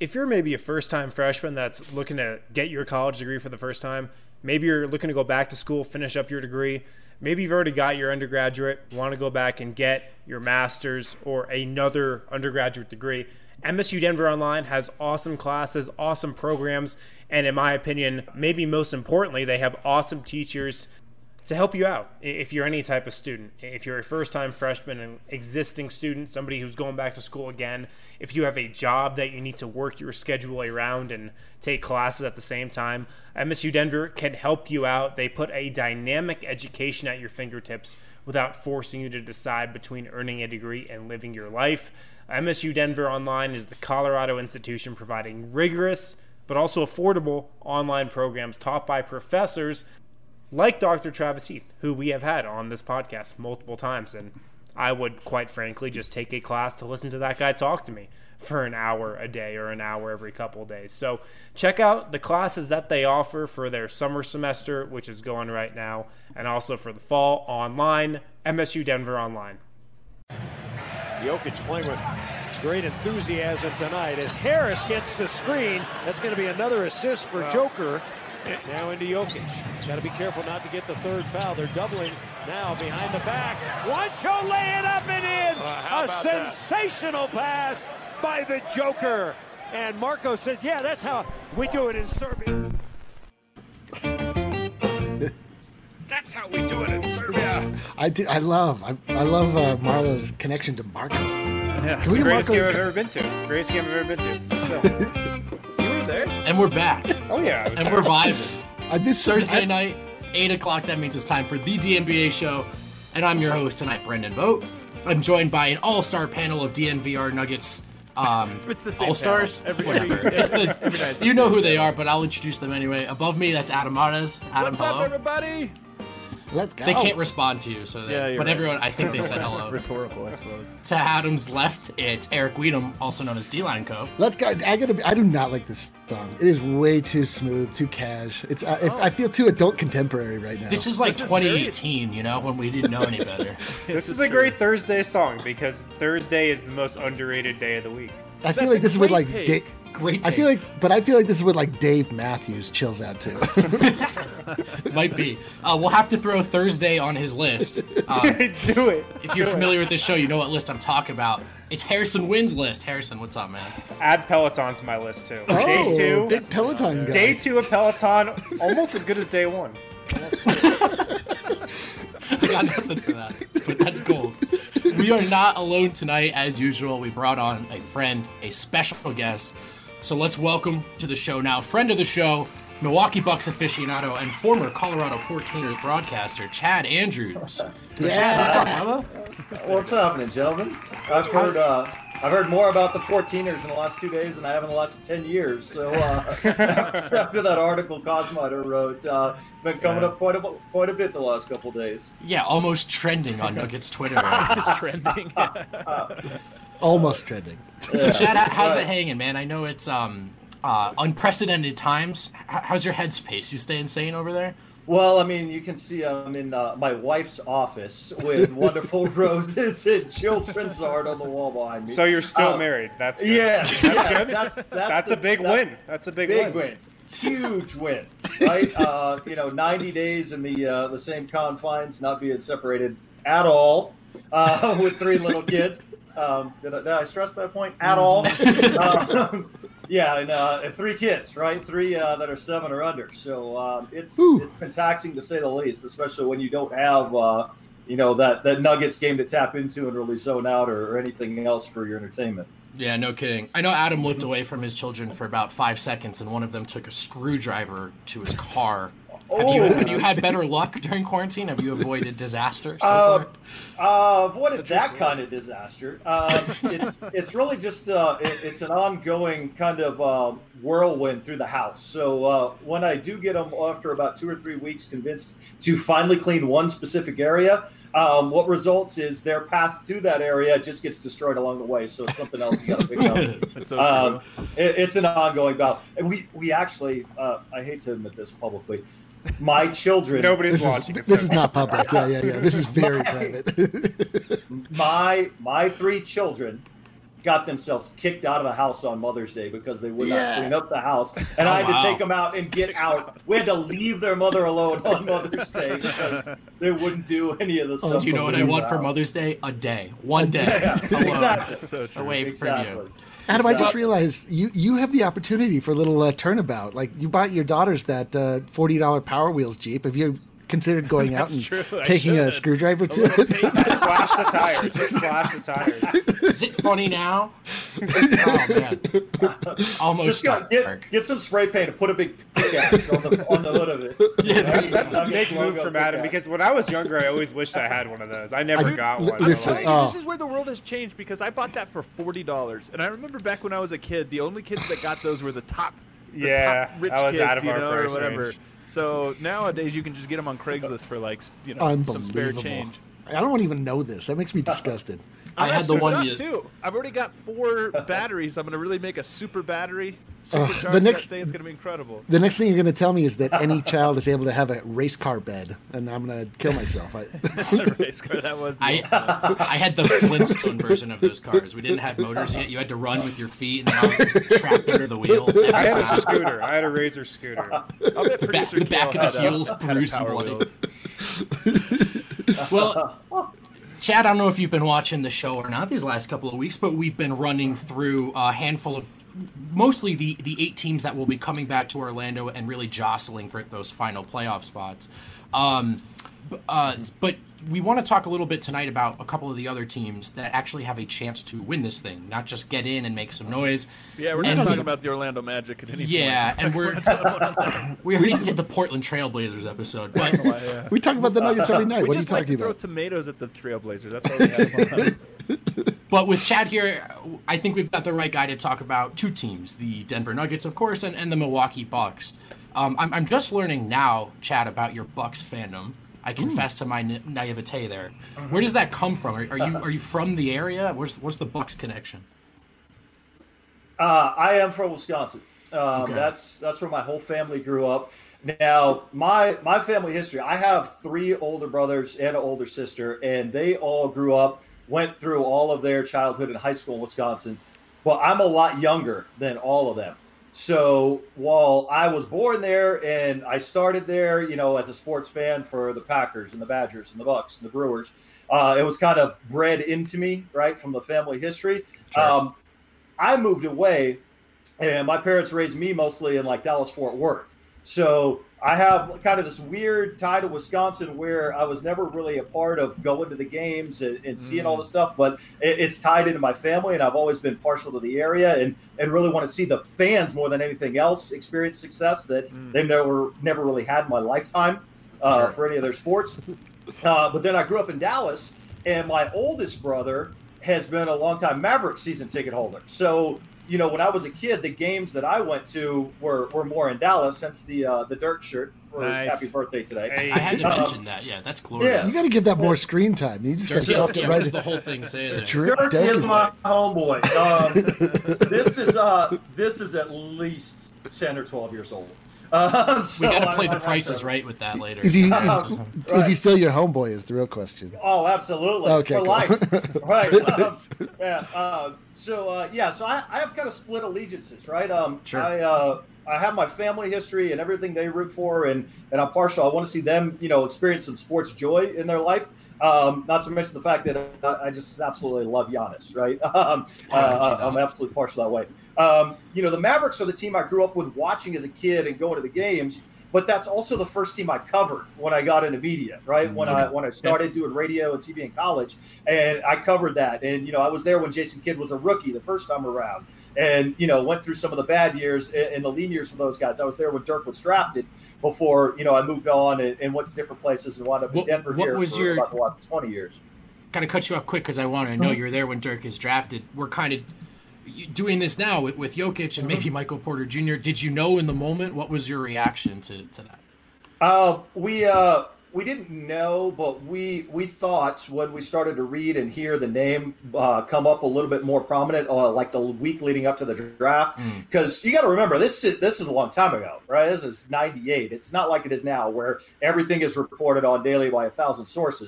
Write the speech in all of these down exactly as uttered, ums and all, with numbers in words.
if you're maybe a first-time freshman that's looking to get your college degree for the first time, maybe you're looking to go back to school, finish up your degree, maybe you've already got your undergraduate, want to go back and get your master's or another undergraduate degree, M S U Denver Online has awesome classes, awesome programs, and in my opinion, maybe most importantly, they have awesome teachers to help you out if you're any type of student. If you're a first-time freshman, an existing student, somebody who's going back to school again, if you have a job that you need to work your schedule around and take classes at the same time, M S U Denver can help you out. They put a dynamic education at your fingertips without forcing you to decide between earning a degree and living your life. M S U Denver Online is the Colorado institution providing rigorous but also affordable online programs taught by professors like Doctor Travis Heath, who we have had on this podcast multiple times. And I would, quite frankly, just take a class to listen to that guy talk to me for an hour a day or an hour every couple of days. So check out the classes that they offer for their summer semester, which is going right now, and also for the fall online, M S U Denver Online. Jokic playing with great enthusiasm tonight as Harris gets the screen. That's going to be another assist for wow. Joker. Now into Jokic. Got to be careful not to get the third foul. They're doubling now behind the back. Juancho lay it up and in. Uh, A sensational that? pass by the Joker. And Marco says, yeah, that's how we do it in Serbia. That's how we do it in Serbia. I do. I love. I, I love uh, Marlo's connection to Marco. Yeah, it's the greatest Marco... game I've ever been to. Greatest game I've ever been to. So. You were there. And we're back. Oh yeah. And we're vibing. Uh, this Thursday I... night, eight o'clock. That means it's time for the D N B A show, and I'm your host tonight, Brendan Vogt. I'm joined by an all-star panel of D N V R Nuggets. Um, it's the same all-stars. Every, Whatever. every, it's the. every night it's you the know same. who they are, but I'll introduce them anyway. Above me, that's Adam Marez. Adam, What's hello. up, everybody? Let's go. They can't respond to you, so they, Yeah, you're but right. everyone, I think they said hello. Rhetorical, I suppose. To Adam's left, it's Eric Weedham, also known as D-Line Co. Let's go. I gotta. Be, I do not like this song. It is way too smooth, too cash. It's. Uh, if, Oh. I feel too adult contemporary right now. This is like This is twenty eighteen, you know, when we didn't know any better. This is a great Thursday song because Thursday is the most underrated day of the week. I feel That's like a this is what great like. take. Da- Great I take. feel like, but I feel like this is what like Dave Matthews chills out to. Might be. Uh, we'll have to throw Thursday on his list. Um, Do it. if you're familiar with this show, you know what list I'm talking about. It's Harrison Wynn's list. Harrison, what's up, man? Add Peloton to my list too. Oh, day two. big Peloton guy. Day two of Peloton, almost as good as day one. I got nothing for that, but that's gold. We are not alone tonight, as usual. We brought on a friend, a special guest. So let's welcome to the show now, friend of the show, Milwaukee Bucks aficionado, and former Colorado fourteeners broadcaster, Chad Andrews. Yeah. Chad, what's up, brother? What's happening, gentlemen? I've heard uh, I've heard more about the fourteeners in the last two days than I have in the last ten years. So uh, after, after that article Cosmider wrote, uh, been coming up quite a quite a bit the last couple days. Yeah, almost trending on Nuggets Twitter. It's trending. Almost trending. So Chad, how's it hanging, man? I know it's um uh, unprecedented times. H- how's your headspace? You staying sane over there? Well, I mean, you can see I'm in uh, my wife's office with wonderful roses and children's art on the wall behind me. So you're still Uh, married. That's good. Yeah, That's yeah, good. That's, that's, That's the- a big that's- win. That's a big, Big win. win. Huge win, right? Uh, you know, ninety days in the uh, the same confines, not being separated at all, uh, with three little kids. Um, did, I, did I stress that point? At all? uh, yeah, and, uh, and three kids, right? Three uh, that are seven or under. So um, it's Ooh. it's been taxing to say the least, especially when you don't have uh, you know that that Nuggets game to tap into and really zone out or, or anything else for your entertainment. Yeah, no kidding. I know Adam looked away from his children for about five seconds, and one of them took a screwdriver to his car. Have you, have you had better luck during quarantine? Have you avoided disaster so Uh, far? Uh, avoided that kind of disaster. Um, it's, it's really just uh, it, it's an ongoing kind of uh, whirlwind through the house. So uh, when I do get them after about two or three weeks convinced to finally clean one specific area, um, what results is their path to that area just gets destroyed along the way. So it's something else you got to pick up. That's so Um, true. it, it's an ongoing battle. And we, we actually, uh, I hate to admit this publicly, my children. Nobody's This watching. is It's this is okay. not public. Yeah, yeah, yeah. This is very My- private. my my three children got themselves kicked out of the house on Mother's Day because they would Yeah. not clean up the house. And Oh, I had wow. to take them out and get out. We had to leave their mother alone on Mother's Day because they wouldn't do any of the stuff. Do you know what I in the want for house. Mother's Day? A day. One day. Yeah, alone, exactly. So true. away from Exactly. you. Adam, I just Well- realized you, you have the opportunity for a little uh, turnabout. Like you bought your daughters that uh, forty dollar Power Wheels Jeep. Have you considered going out That's and true, I taking a should. screwdriver A to little it? paint. Just slash the tires. Just slash the tires. Is it funny now? Oh man, almost Just got, get, dark. get some spray paint and put a big pickaxe on the on the hood of it. Yeah, there you go. That's a big move Logo from Adam pickaxe. because when I was younger, I always wished I had one of those. I never I- got li- one. I'm listen, telling So, you, oh. this is where the world has changed because I bought that for forty dollars, and I remember back when I was a kid, the only kids that got those were the top, the Yeah, top rich I was kids, out of you our know, or price whatever. range. So nowadays, you can just get them on Craigslist for like, you know, some spare Unbelievable. change. I don't even know this. That makes me disgusted. I I'm had the gonna one suit you. up, too. I've already got four batteries. I'm gonna really make a super battery. Supercharge the next- that thing. It's gonna be incredible. The next thing you're going to tell me is that any child is able to have a race car bed, and I'm going to kill myself. I, That's a race car. That was. The I I had the Flintstone version of those cars. We didn't have motors yet. You had to run with your feet, and then I was trapped under the wheel. every I had a time. scooter. I had a Razor scooter. I'll bet The back, producer the back Kale of the had a- heels had a bruised and Power bloody. Wheels. Well, Chad, I don't know if you've been watching the show or not these last couple of weeks, but we've been running through a handful of mostly the, the eight teams that will be coming back to Orlando and really jostling for those final playoff spots. Um, b- uh, but we want to talk a little bit tonight about a couple of the other teams that actually have a chance to win this thing, not just get in and make some noise. Yeah, we're not And talking we- about the Orlando Magic at any Yeah, point. and we're we already did the Portland Trailblazers episode, but Yeah. we talk about the Nuggets every night. We What are you just like talking to throw about? tomatoes at the Trailblazers. That's all we have on. But with Chad here, I think we've got the right guy to talk about two teams, the Denver Nuggets, of course, and, and the Milwaukee Bucks. Um, I'm, I'm just learning now, Chad, about your Bucks fandom. I confess to my na- naivete there. Where does that come from? Are, are you are you from the area? Where's what's the Bucks connection? Uh, I am from Wisconsin. Um, Okay. That's that's where my whole family grew up. Now, my my family history. I have three older brothers and an older sister, and they all grew up, went through all of their childhood and high school in Wisconsin. But I'm a lot younger than all of them. So while I was born there and I started there, you know, as a sports fan for the Packers and the Badgers and the Bucks and the Brewers, uh, it was kind of bred into me, right, from the family history. Sure. Um, I moved away, and my parents raised me mostly in like Dallas, Fort Worth. So I have kind of this weird tie to Wisconsin where I was never really a part of going to the games and, and seeing all the stuff, but it, it's tied into my family, and I've always been partial to the area and, and really want to see the fans more than anything else experience success that they've never never really had in my lifetime uh, Sure. for any of their sports. Uh, but then I grew up in Dallas, and my oldest brother has been a longtime Mavericks season ticket holder. So, you know, when I was a kid, the games that I went to were, were more in Dallas, hence the uh, the Dirk shirt for Nice. his happy birthday today. Hey. I had to Um, mention that. Yeah, that's glorious. You got to give that more screen time. You just got Dirk to is, up yeah, it what right. does the whole thing say there? Dirk- Dirk Dirk is is- my homeboy. Um, this is uh, this is at least ten or twelve years old. Um, We so got to I- play I the have prices to- right with that later. Is he Uh, is right. he still your homeboy? Is the real question. Oh, absolutely. Okay, For cool. life. Right. Um, yeah. Uh, so, uh, yeah, so I, I have kind of split allegiances, right? Um, Sure. I, uh, I have my family history and everything they root for, and, and I'm partial. I want to see them, you know, experience some sports joy in their life. Um, not to mention the fact that I, I just absolutely love Giannis, right? Um, How could you uh, not? I'm absolutely partial that way. Um, you know, the Mavericks are the team I grew up with watching as a kid and going to the games. But that's also the first team I covered when I got into media, right? When I when I started doing radio and T V in college, and I covered that. And you know, I was there when Jason Kidd was a rookie the first time around, and you know, went through some of the bad years and the lean years for those guys. I was there when Dirk was drafted before you know I moved on and, and went to different places and wound up in What- Denver what here was for your- about the last twenty years. Kind of cut you off quick because I want to know Mm-hmm. you're there when Dirk is drafted. We're kind of doing this now with, with Jokic and maybe Michael Porter Junior Did you know in the moment? What was your reaction to, to that? Uh, we uh, we didn't know, but we we thought when we started to read and hear the name uh, come up a little bit more prominent, uh, like the week leading up to the draft, because you got to remember this is this is a long time ago, right? This is ninety-eight. It's not like it is now, where everything is reported on daily by a thousand sources.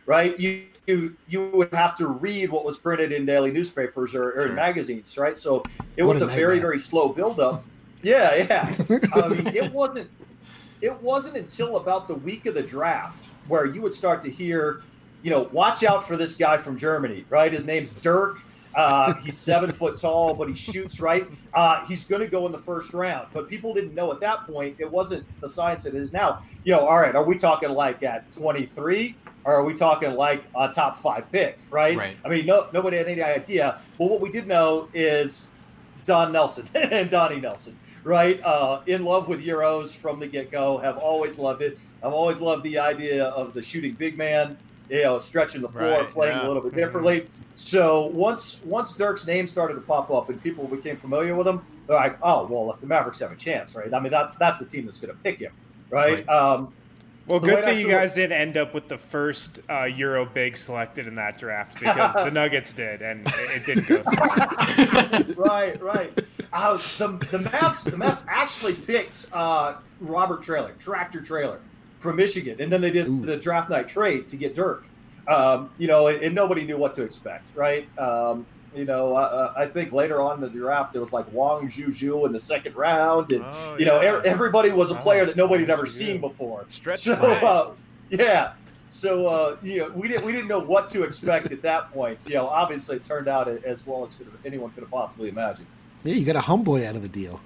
right? You you you would have to read what was printed in daily newspapers or, or Sure. in magazines, right? So it What was a a very nightmare. very slow buildup. Yeah, yeah. I mean, it wasn't it wasn't until about the week of the draft where you would start to hear, you know, watch out for this guy from Germany, right? His name's Dirk. Uh, he's seven foot tall, but he shoots, right? Uh, he's going to go in the first round. But people didn't know at that point. It wasn't the science it is now. You know, all right, are we talking like at twenty-three? Or are we talking like a top five pick, right? Right. I mean, no, nobody had any idea. But what we did know is Don Nelson and Donnie Nelson, right? Uh, in love with Euros from the get-go, have always loved it. I've always loved the idea of the shooting big man, you know, stretching the floor, Right, playing yeah. a little bit differently. So once once Dirk's name started to pop up and people became familiar with him, they're like, oh, well, if the Mavericks have a chance, right? I mean, that's that's the team that's going to pick him, right? Right. Um, Well, The way good thing that's you sort of- guys didn't end up with the first uh, Euro big selected in that draft because the Nuggets did, and it, it didn't go. So. right, right. Uh, the the Mavs the Mavs actually picked uh, Robert Traylor, Tractor Trailer, from Michigan, and then they did Ooh. the draft night trade to get Dirk. Um, you know, and, and nobody knew what to expect, right? Um, you know, uh, I think later on in the draft there was like Wang Zhuzhu in the second round, and Oh, you know, yeah. e- everybody was a player Oh, that nobody had Wang ever Zhuzhu. seen before. Stretch So, the uh, yeah. So, uh, you know, we didn't we didn't know what to expect at that point. You know, obviously it turned out as well as could have, anyone could have possibly imagined. Yeah, you got a homeboy out of the deal.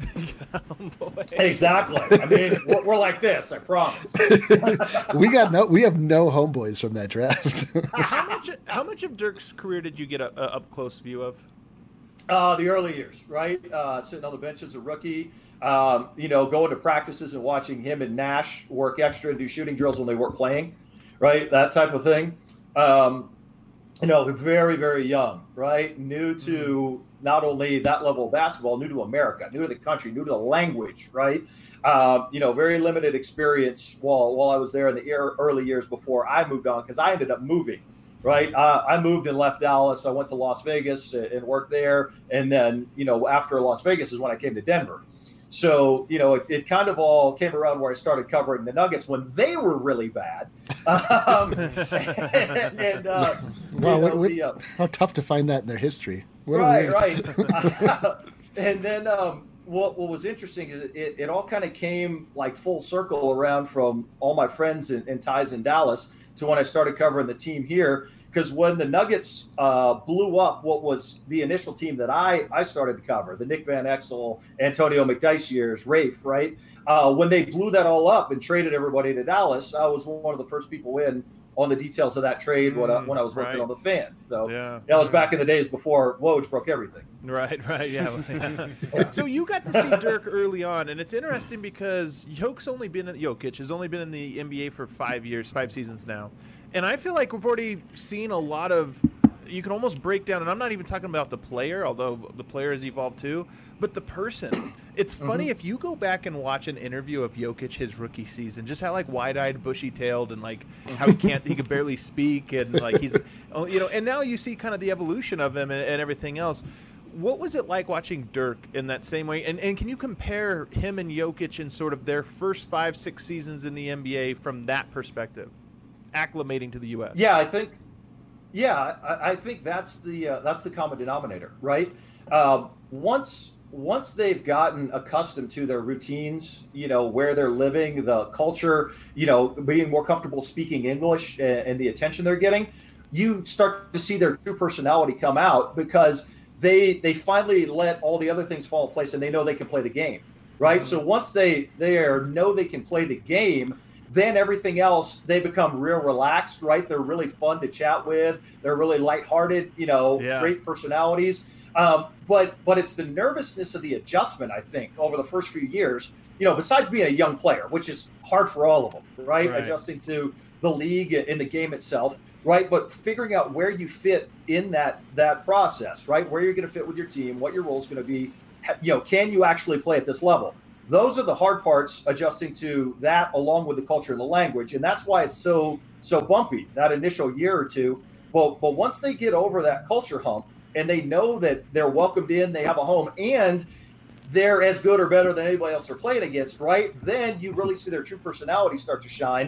Exactly. I mean, we're, we're like this. I promise. We got no, we have no homeboys from that draft. how much how much of Dirk's career did you get a, a up close view of? Uh, the early years, right? Uh, sitting on the bench as a rookie, um, you know, going to practices and watching him and Nash work extra and do shooting drills when they weren't playing, right? That type of thing. Um, you know, very, very young, right? New to not only that level of basketball, new to America, new to the country, new to the language, right? Um, you know, very limited experience while while I was there in the ear- early years before I moved on, because I ended up moving. Right. Uh, I moved and left Dallas. I went to Las Vegas and worked there. And then, you know, after Las Vegas is when I came to Denver. So, you know, it, it kind of all came around where I started covering the Nuggets when they were really bad. Um, and, and uh, Wow, you what, know, what, the, uh, how tough to find that in their history. What a right, weird- right. And then um, what what was interesting is it, it all kind of came like full circle around from all my friends and, and ties in Dallas to when I started covering the team here. Because when the Nuggets uh, blew up what was the initial team that I, I started to cover, the Nick Van Exel, Antonio McDyess years, Rafe, right? Uh, when they blew that all up and traded everybody to Dallas, I was one of the first people in on the details of that trade when, I, when I was working right. on the fans. So Yeah. that was back in the days before Woj broke everything. Right, right, yeah. So you got to see Dirk early on, and it's interesting because Jokic's only been in, Jokic has only been in the N B A for five years, five seasons now, and I feel like we've already seen a lot of. You can almost break down, and I'm not even talking about the player, although the player has evolved too, but the person. It's funny if you go back and watch an interview of Jokic his rookie season, just how like wide-eyed, bushy-tailed, and like how he can't, he can barely speak, and like he's, you know, and now you see kind of the evolution of him and, and everything else. What was it like watching Dirk in that same way? And and can you compare him and Jokic in sort of their first five, six seasons in the N B A from that perspective, acclimating to the U S? Yeah, I think. Yeah, I, I think that's the uh, that's the common denominator, right? Um, once once they've gotten accustomed to their routines, you know, where they're living, the culture, you know, being more comfortable speaking English and, and the attention they're getting, you start to see their true personality come out because they they finally let all the other things fall in place and they know they can play the game, right? Mm-hmm. So once they they are, know they can play the game, then everything else, they become real relaxed, right? They're really fun to chat with. They're really lighthearted, you know, Yeah. great personalities. Um, but but it's the nervousness of the adjustment, I think, over the first few years, you know, besides being a young player, which is hard for all of them, right? Right. Adjusting to the league and the game itself, right? But figuring out where you fit in that that process, right? Where you're going to fit with your team, what your role is going to be, you know, can you actually play at this level? Those are the hard parts, adjusting to that along with the culture and the language. And that's why it's so so bumpy, that initial year or two. But, but once they get over that culture hump and they know that they're welcomed in, they have a home, and they're as good or better than anybody else they're playing against, right? Then you really see their true personality start to shine.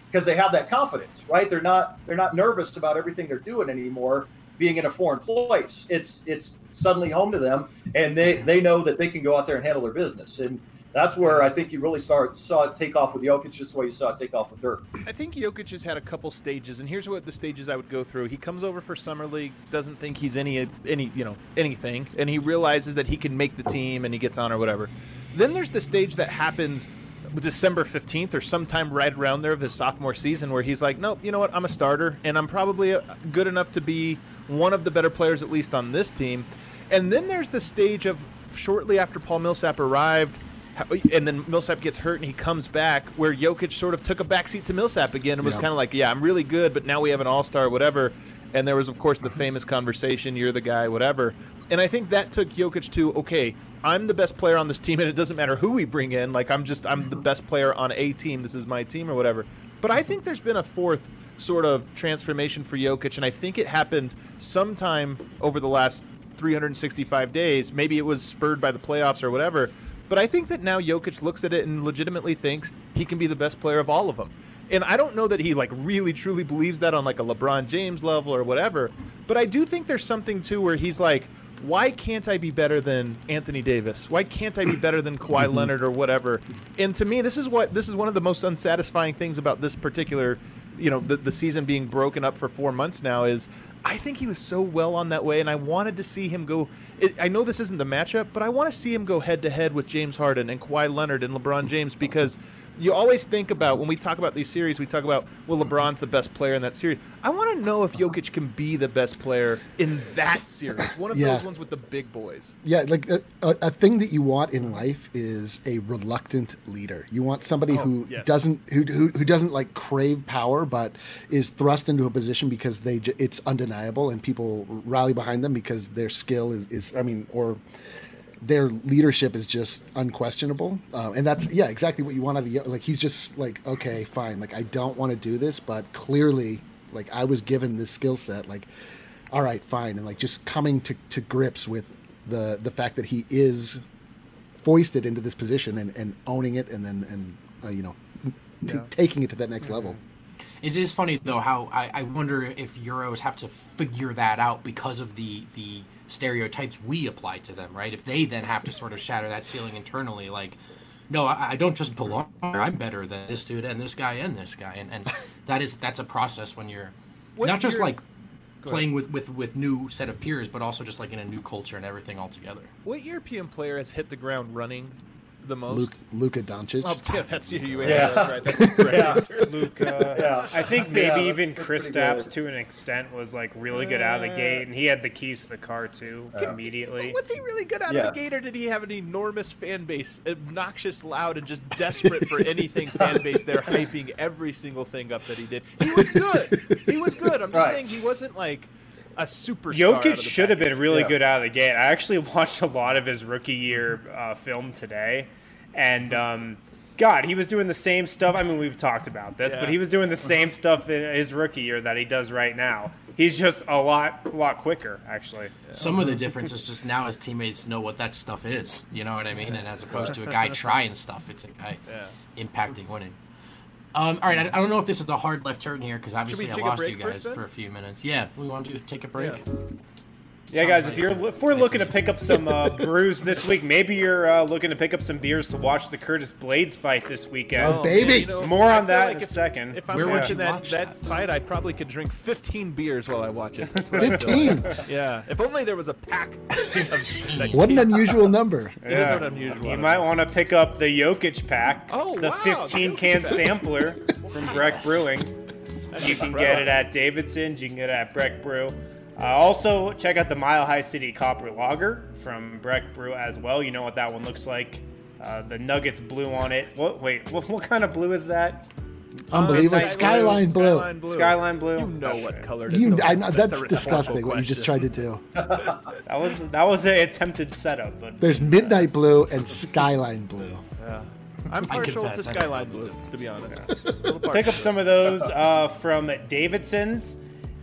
because they have that confidence, right? They're not they're not nervous about everything they're doing anymore. Being in a foreign place, it's it's suddenly home to them, and they they know that they can go out there and handle their business. And that's where I think you really start saw it take off with Jokic, just the way you saw it take off with Dirk. I think Jokic has had a couple stages, and here's what the stages I would go through. He comes over for Summer League, doesn't think he's any any you know anything, and he realizes that he can make the team, and he gets on or whatever. Then there's the stage that happens December fifteenth or sometime right around there of his sophomore season, where he's like, nope, you know what, I'm a starter, and I'm probably good enough to be one of the better players, at least on this team. And then there's the stage of shortly after Paul Millsap arrived, and then Millsap gets hurt and he comes back, where Jokic sort of took a backseat to Millsap again and was yeah. kind of like, yeah, I'm really good, but now we have an all-star, whatever. And there was, of course, the famous conversation, you're the guy, whatever. And I think that took Jokic to, okay, I'm the best player on this team, and it doesn't matter who we bring in. Like, I'm just, I'm the best player on a team. This is my team or whatever. But I think there's been a fourth sort of transformation for Jokic, and I think it happened sometime over the last three hundred sixty-five days. Maybe it was spurred by the playoffs or whatever. But I think that now Jokic looks at it and legitimately thinks he can be the best player of all of them. And I don't know that he like really truly believes that on like a LeBron James level or whatever, but I do think there's something too where he's like, why can't I be better than Anthony Davis? Why can't I be better than Kawhi Leonard or whatever? And to me, this is what this is one of the most unsatisfying things about this particular, you know, the, the season being broken up for four months now is I think he was so well on that way, and I wanted to see him go. It, I know this isn't the matchup, but I want to see him go head to head with James Harden and Kawhi Leonard and LeBron James, because you always think about, when we talk about these series, we talk about, well, LeBron's the best player in that series. I want to know if Jokic can be the best player in that series, one of yeah. those ones with the big boys. Yeah, like a, a, a thing that you want in life is a reluctant leader. You want somebody oh, who yes. doesn't who, who who doesn't like crave power, but is thrust into a position because they it's undeniable and people rally behind them because their skill is, is I mean, or their leadership is just unquestionable. Uh, and that's, yeah, exactly what you want out of, like, he's just like, okay, fine. Like, I don't want to do this, but clearly, like, I was given this skill set, like, all right, fine. And like just coming to, to grips with the, the fact that he is foisted into this position and, and owning it. And then, and, uh, you know, t- yeah. taking it to that next mm-hmm. level. It is funny though, how I, I wonder if Euros have to figure that out because of the, the, stereotypes we apply to them, right? If they then have to sort of shatter that ceiling internally, like, no, I, I don't just belong here. I'm better than this dude and this guy and this guy, and, and that is that's a process when you're what not just like playing with, with with new set of peers, but also just like in a new culture and everything altogether. What European player has hit the ground running the most? Luke, Luka Doncic. Oh, yeah, that's you. You answered yeah. that right. That's the correct yeah. answer. Luka. Yeah. I think maybe yeah, even Kristaps good. to an extent was like really good out of the gate, and he had the keys to the car too Yeah. immediately. Was he really good out Yeah. of the gate, or did he have an enormous fan base, obnoxious, loud, and just desperate for anything fan base there, hyping every single thing up that he did? He was good. He was good. I'm just Right. saying he wasn't like a superstar. Jokic should have been really Yeah. good out of the gate. I actually watched a lot of his rookie year uh, film today, and um, God, he was doing the same stuff. I mean, we've talked about this, Yeah. but he was doing the same stuff in his rookie year that he does right now. He's just a lot, a lot quicker, actually. Yeah. Some of the difference is just now his teammates know what that stuff is. You know what I mean? And as opposed to a guy trying stuff, it's a guy yeah. impacting winning. Um, all right, I, I don't know if this is a hard left turn here because obviously I lost you guys first, for a few minutes. Yeah, we want to take a break. Yeah. Yeah, guys, if you're if we're looking to pick up some uh, brews this week, maybe you're uh, looking to pick up some beers to watch the Curtis Blades fight this weekend. Oh, baby. Man, you know, More I on feel that like in a if, second. If I'm Where would watching you that, watch that that? fight, I probably could drink fifteen beers while I watch it. fifteen. Yeah, if only there was a pack. Of, like, What an unusual number. It is an unusual. You might want to pick up the Jokic pack, Oh, the wow, fifteen can sampler from Breck Brewing. You can get it at Davidson's. You can get it at Breck Brew. Uh, also, check out the Mile High City Copper Lager from Breck Brew as well. You know what that one looks like. Uh, the Nuggets blue on it. What? Wait, what, what kind of blue is that? Unbelievable. Uh, Skyline blue. Skyline blue. Skyline blue. You know what color it is. You, No, I know, that's a disgusting what you just tried question. to do. That was that was an attempted setup, but There's midnight blue and skyline blue. Yeah. I'm I partial confess, to I Skyline don't know blue, what to be honest. pick up some of those uh, from Davidson's.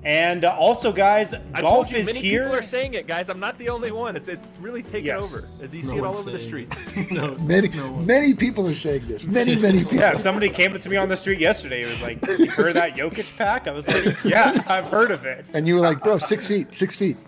And uh, also, guys, I golf told you, is many here. people are saying it, guys. I'm not the only one. It's it's really taken Yes. over. As you No see it all one's over the saying streets. no, Many, no one. many people are saying this. Many, many people. Yeah, somebody came up to me on the street yesterday. It was like, "You heard of that Jokic pack?" I was like, "Yeah, I've heard of it." And you were like, bro, six feet, six feet.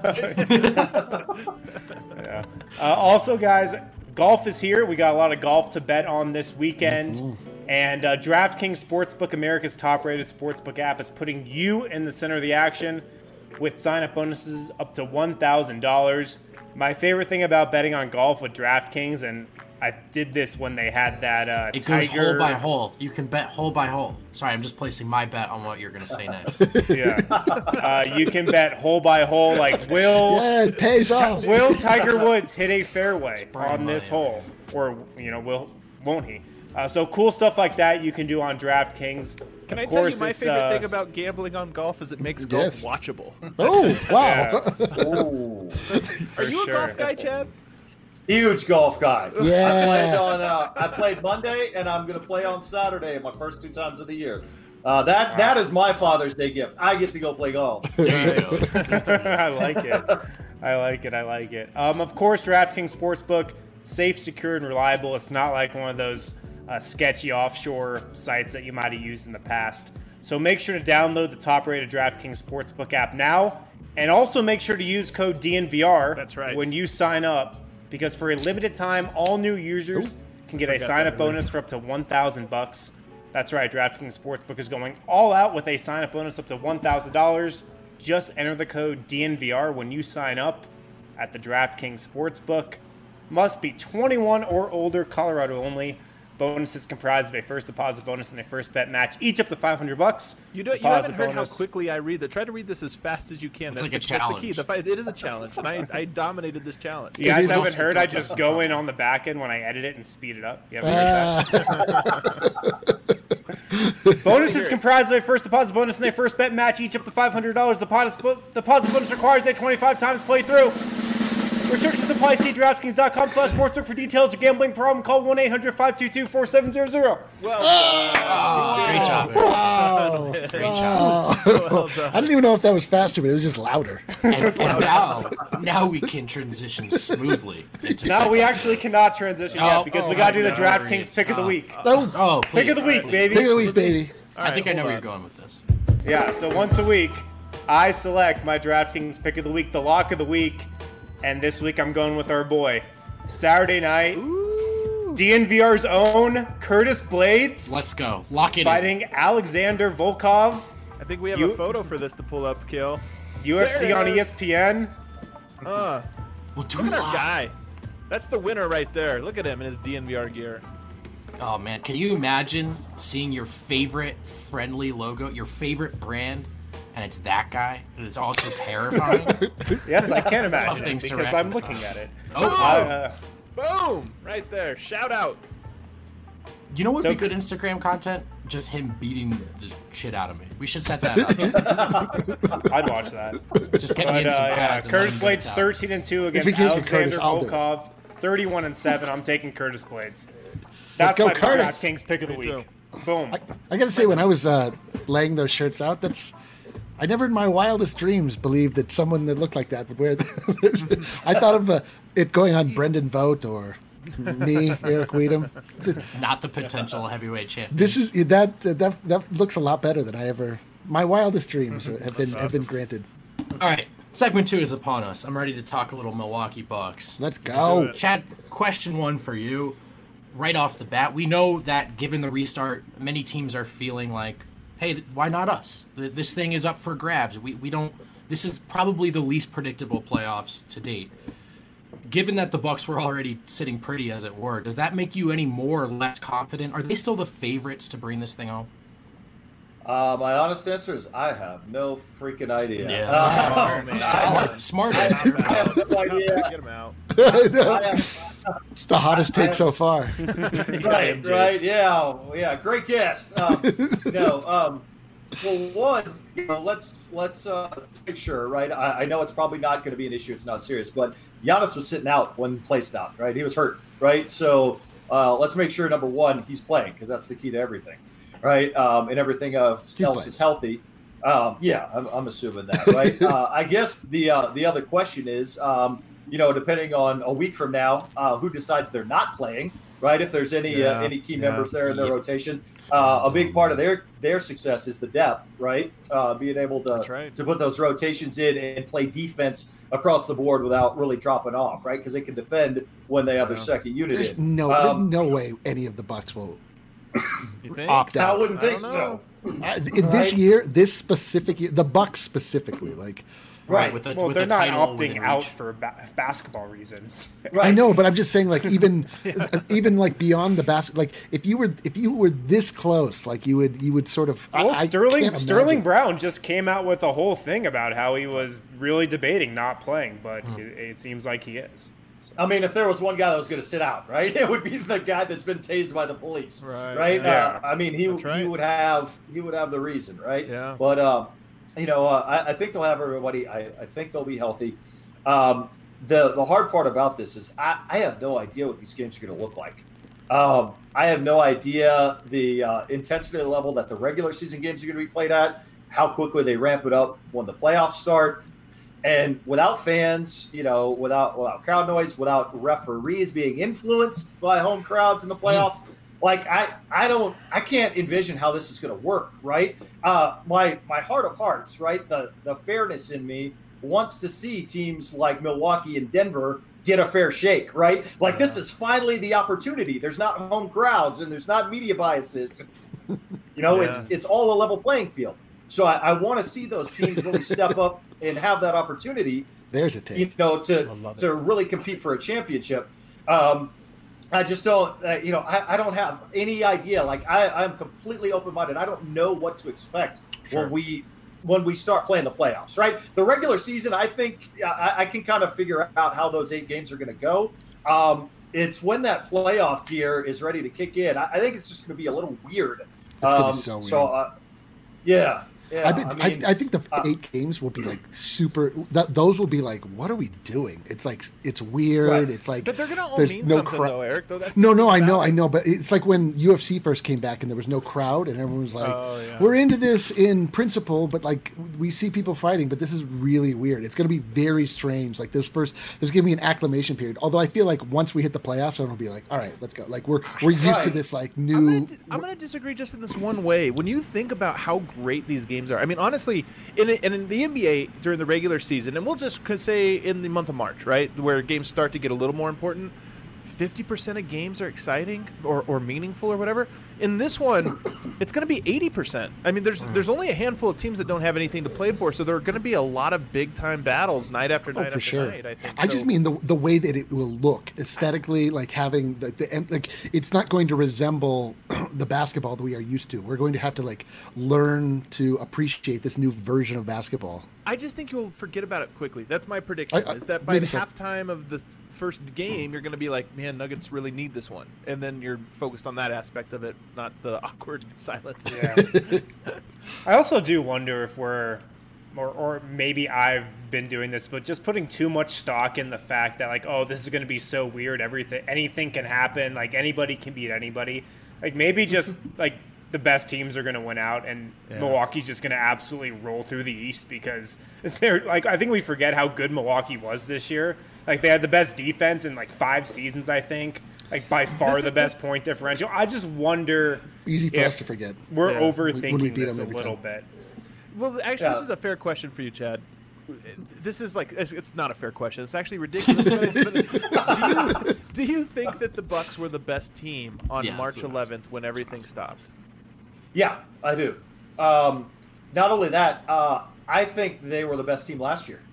Yeah. Uh, also, guys, golf is here. We got a lot of golf to bet on this weekend. Mm-hmm. And uh, DraftKings Sportsbook, America's top-rated sportsbook app, is putting you in the center of the action with sign-up bonuses up to one thousand dollars. My favorite thing about betting on golf with DraftKings, and I did this when they had that uh, It Tiger. goes hole by hole. You can bet hole by hole. Sorry, I'm just placing my bet on what you're going to say next. Yeah. Uh, you can bet hole by hole, like will Yeah, it pays off. will Tiger Woods hit a fairway Brian on this Maya. hole, or you know, will won't he? Uh, so cool stuff like that you can do on DraftKings. Can of I tell you course, my it's, favorite uh, thing about gambling on golf is it makes golf Yes. watchable. Oh, wow. Ooh. for Are you sure. a golf guy, Chad? Huge golf guy. Yeah. I played on. Uh, I played Monday, and I'm going to play on Saturday. My first two times of the year. Uh, that that is my Father's Day gift. I get to go play golf. There you go. I like it. I like it. I like it. Um, of course, DraftKings Sportsbook, safe, secure, and reliable. It's not like one of those uh, sketchy offshore sites that you might have used in the past. So make sure to download the top-rated DraftKings Sportsbook app now, and also make sure to use code D N V R That's right. when you sign up, because for a limited time, all new users can get a forgot sign-up that. bonus for up to one thousand bucks. That's right, DraftKings Sportsbook is going all out with a sign-up bonus up to one thousand dollars. Just enter the code D N V R when you sign up at the DraftKings Sportsbook. Must be twenty-one or older, Colorado only. Bonus is comprised of a first deposit bonus and a first bet match, each up to five hundred bucks. You don't. You Deposit haven't heard bonus. how quickly I read that. Try to read this as fast as you can. It's That's like the, a that's the key. challenge. The fight, it is a challenge, and I, I dominated this challenge. You guys is haven't also heard? I just go in on the back end when I edit it and speed it up. You haven't Uh, heard that? Bonus is comprised of a first deposit bonus and a first bet match, each up to five hundred dollars. Deposit, deposit bonus requires a twenty-five times playthrough. Restrictions apply. See DraftKings.com slash sportsbook for details. A gambling problem, call one eight hundred five two two four seven zero zero. Well, Great job, Eric. wow. Great job. well done. I didn't even know if that was faster, but it was just louder. And, and now, now we can transition smoothly into Now we segment. actually cannot transition Oh, yet because we oh, got to do my the God. DraftKings pick of the Oh. week. Oh, Oh, please. Pick of the week, please. baby. pick of the week, baby. I think I know hold where on. you're going with this. Yeah, so once a week, I select my DraftKings pick of the week, the lock of the week, and this week I'm going with our boy. Saturday night, D N V R's own Curtis Blades Let's go. Lock it in. fighting Alexander Volkov, I think we have You- a photo for this to pull up, Kill. U F C There it on is. E S P N. Uh, We'll do look it at our live. guy. That's the winner right there. Look at him in his D N V R gear. Oh man, can you imagine seeing your favorite friendly logo, your favorite brand, and it's that guy? And it's also terrifying. Yes, I can Tough imagine it things to because I'm reconcile. looking at it. Oh, Uh, Boom! Right there. Shout out. you know what So- would be good Instagram content? Just him beating the shit out of me. We should set that up. I'd watch that. Just get me But in uh, some yeah, pads. and let Curtis him Blades get it out. thirteen and two against we can't get Alexander Curtis, I'll do it. Volkov, thirty-one and seven. I'm taking Curtis Blades. That's go, my Curtis. DraftKings pick of the Me week. Boom. I gotta say, when I was uh, laying those shirts out, that's I never in my wildest dreams believed that someone that looked like that would wear them. I thought of uh, it going on Brendan Vogt or me, Eric Weedham. Not the potential heavyweight champion. This is that that that looks a lot better than I ever. My wildest dreams have been have been granted. All right, segment two is upon us. I'm ready to talk a little Milwaukee Bucks. Let's go. Chad, question one for you. Right off the bat, we know that given the restart, many teams are feeling like, hey, th- why not us? Th- This thing is up for grabs. We, we don't. This is probably the least predictable playoffs to date. Given that the Bucks were already sitting pretty, as it were, does that make you any more or less confident? Are they still the favorites to bring this thing home? Uh, my honest answer is I have no freaking idea. Yeah. Uh, Oh, man. Smart, smart answer. I have no idea. Get him out. I have, It's the hottest take so far. right, right, yeah, yeah, great guest. Um, no, um, well, one, you know, let's let's uh, make sure, right? I, I know it's probably not going to be an issue; it's not serious. But Giannis was sitting out when play stopped, right? He was hurt, right? So uh, let's make sure number one, he's playing because that's the key to everything, right? Um, and everything else, else playing. is healthy. Um, yeah, I'm, I'm assuming that, right? uh, I guess the uh, the other question is, um, you know, depending on a week from now, uh, who decides they're not playing, right? If there's any Yeah, uh, any key yeah. members there in their Yep. rotation, uh, a big part of their their success is the depth, right? Uh, being able to That's right. to put those rotations in and play defense across the board without really dropping off, right? Because they can defend when they have their Yeah. second unit There's in. no, Um, there's no way any of the Bucks will You think? opt I out. wouldn't I think don't so. know. I, in this Right. year, this specific year, the Bucks specifically, like Right. With a, Well, with they're a not title opting within out reach. for ba- basketball reasons. Right. I know, but I'm just saying, like even even like beyond the basket, like if you were if you were this close, like you would you would sort of. Well, I, I Sterling can't Sterling imagine. Brown just came out with a whole thing about how he was really debating not playing, but Hmm. it, it seems like he is. I mean, if there was one guy that was going to sit out, right, it would be the guy that's been tased by the police, Right, right? yeah. Uh, I mean, he That's right. he would have he would have the reason, right? Yeah. But um, you know, uh, I, I think they'll have everybody. I, I think they'll be healthy. Um, the the hard part about this is I, I have no idea what these games are going to look like. Um, I have no idea the uh, intensity level that the regular season games are going to be played at, how quickly they ramp it up when the playoffs start. And without fans, you know, without without crowd noise, without referees being influenced by home crowds in the playoffs, like I, I don't, I can't envision how this is going to work, right? Uh, my my heart of hearts, right? The the fairness in me wants to see teams like Milwaukee and Denver get a fair shake, right? Like this is finally the opportunity. There's not home crowds and there's not media biases. It's, you know, Yeah. it's it's all a level playing field. So I, I want to see those teams really step up and have that opportunity, There's a take. you know, to love to really compete for a championship. Um, I just don't, uh, you know, I, I don't have any idea. Like I, I'm completely open minded. I don't know what to expect Sure. when we when we start playing the playoffs. Right, the regular season, I think I, I can kind of figure out how those eight games are going to go. Um, it's when that playoff gear is ready to kick in. I, I think it's just going to be a little weird. gonna Um, be so weird. So, uh, yeah. Yeah, I, bet, I mean, I, I think the uh, eight games will be like super. That those will be like, what are we doing? It's like it's weird. Right. It's like But they're gonna all there's mean no something, crowd. though, Eric. Though that's No, the no, thing I know, about I it. know, but it's like when U F C first came back and there was no crowd and everyone was like, Oh, yeah. "We're into this in principle, but like we see people fighting, but this is really weird. It's going to be very strange. Like there's first, there's going to be an acclimation period. Although I feel like once we hit the playoffs, everyone will be like, "All right, let's go." Like we're we're used to Right. this like I'm new. gonna, di- I'm gonna disagree just in this one way. When you think about how great these games are, I mean, honestly, in a, and in the N B A during the regular season, and we'll just could say in the month of March, right, where games start to get a little more important, fifty percent of games are exciting or, or meaningful or whatever. In this one, it's going to be eighty percent. I mean, there's there's only a handful of teams that don't have anything to play for, so there are going to be a lot of big time battles night after night Oh, for after sure. night. I think. I just So- mean the the way that it will look aesthetically, like having the, the like it's not going to resemble the basketball that we are used to. We're going to have to like learn to appreciate this new version of basketball. I just think you'll forget about it quickly. That's my prediction. I- I- is that by maybe the so. halftime of the first game, you're going to be like, "Man, Nuggets really need this one," and then you're focused on that aspect of it, not the awkward silence. Yeah. I also do wonder if we're, or, or maybe I've been doing this, but just putting too much stock in the fact that like, oh, this is going to be so weird. Everything, anything can happen. Like anybody can beat anybody. Like maybe just like the best teams are going to win out, and Yeah. Milwaukee's just going to absolutely roll through the East because they're like, I think we forget how good Milwaukee was this year. Like they had the best defense in like five seasons, I think. Like by far This- the best point differential. I just wonder. Easy for if us to forget. We're Yeah. overthinking When we beat this a them every little time. bit. Well, actually, this Yeah. is a fair question for you, Chad. This is like it's, it's not a fair question. It's actually ridiculous. but, but do, you, do you think that the Bucks were the best team on Yeah, that's March what I was- eleventh when everything stopped? Yeah, I do. Um, not only that, uh, I think they were the best team last year.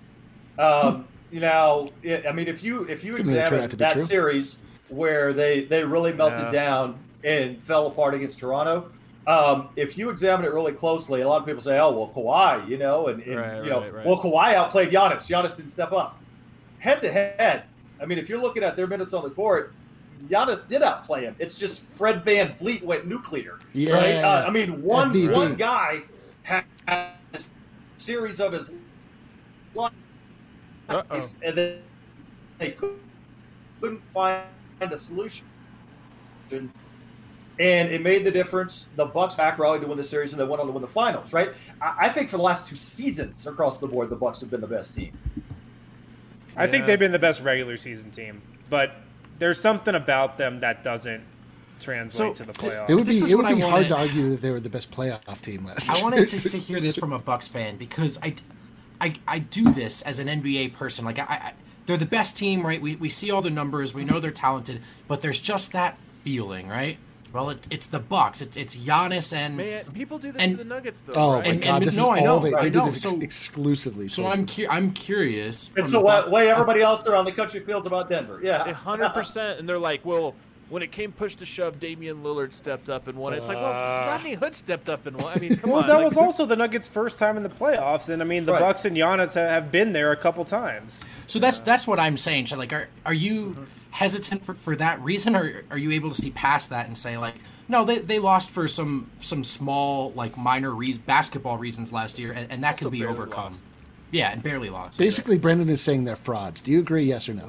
Um, you know, it, I mean, if you if you Could really turn examine out to be that true. series where they they really melted Yeah. down and fell apart against Toronto, um, if you examine it really closely, a lot of people say, "Oh, well, Kawhi," you know, and, and Right, you know, right, right. well, Kawhi outplayed Giannis. Giannis didn't step up. Head to head, I mean, if you're looking at their minutes on the court, Giannis did outplay him. It's just Fred Van Vliet went nuclear. Yeah. Right? Uh, I mean, one F V V. one guy had a series of his life, Uh-oh. and then they couldn't find a solution and it made the difference. The Bucks back rallied to win the series, and they went on to win the finals. Right? I, I think for the last two seasons across the board, the Bucks have been the best team. I think they've been the best regular season team, but there's something about them that doesn't translate So, to the playoffs. It would be This is it would what I be hard wanted- to argue that they were the best playoff team last year. I wanted to, to hear this from a Bucks fan because I, I, I do this as an N B A person. Like I, I, they're the best team, right? We, we see all the numbers, we know they're talented, but there's just that feeling, right? Well, it, it's the Bucks. It's it's Giannis and Man, people do this And- to the Nuggets, though. Oh right? my And- god, and- this no, I is know, all they, I they do know. this ex- So- exclusively. so towards I'm the- cu- I'm curious. from It's the the way, Buc- way everybody else around the country feels about Denver. Yeah, A hundred percent, and they're like, well, when it came push to shove, Damian Lillard stepped up and won. It's like, well, Uh. Rodney Hood stepped up and won. I mean, come Well, on. that like- was also the Nuggets' first time in the playoffs, and I mean the Right. Bucks and Giannis ha- have been there a couple times. So that's that's what I'm saying. So like, are are you hesitant for, for that reason, or are you able to see past that and say like, no, they, they lost for some some small like minor re- basketball reasons last year, and, and that Also can be barely overcome. lost. Yeah, and barely lost. Basically, Brendan is saying they're frauds. Do you agree? Yes or no?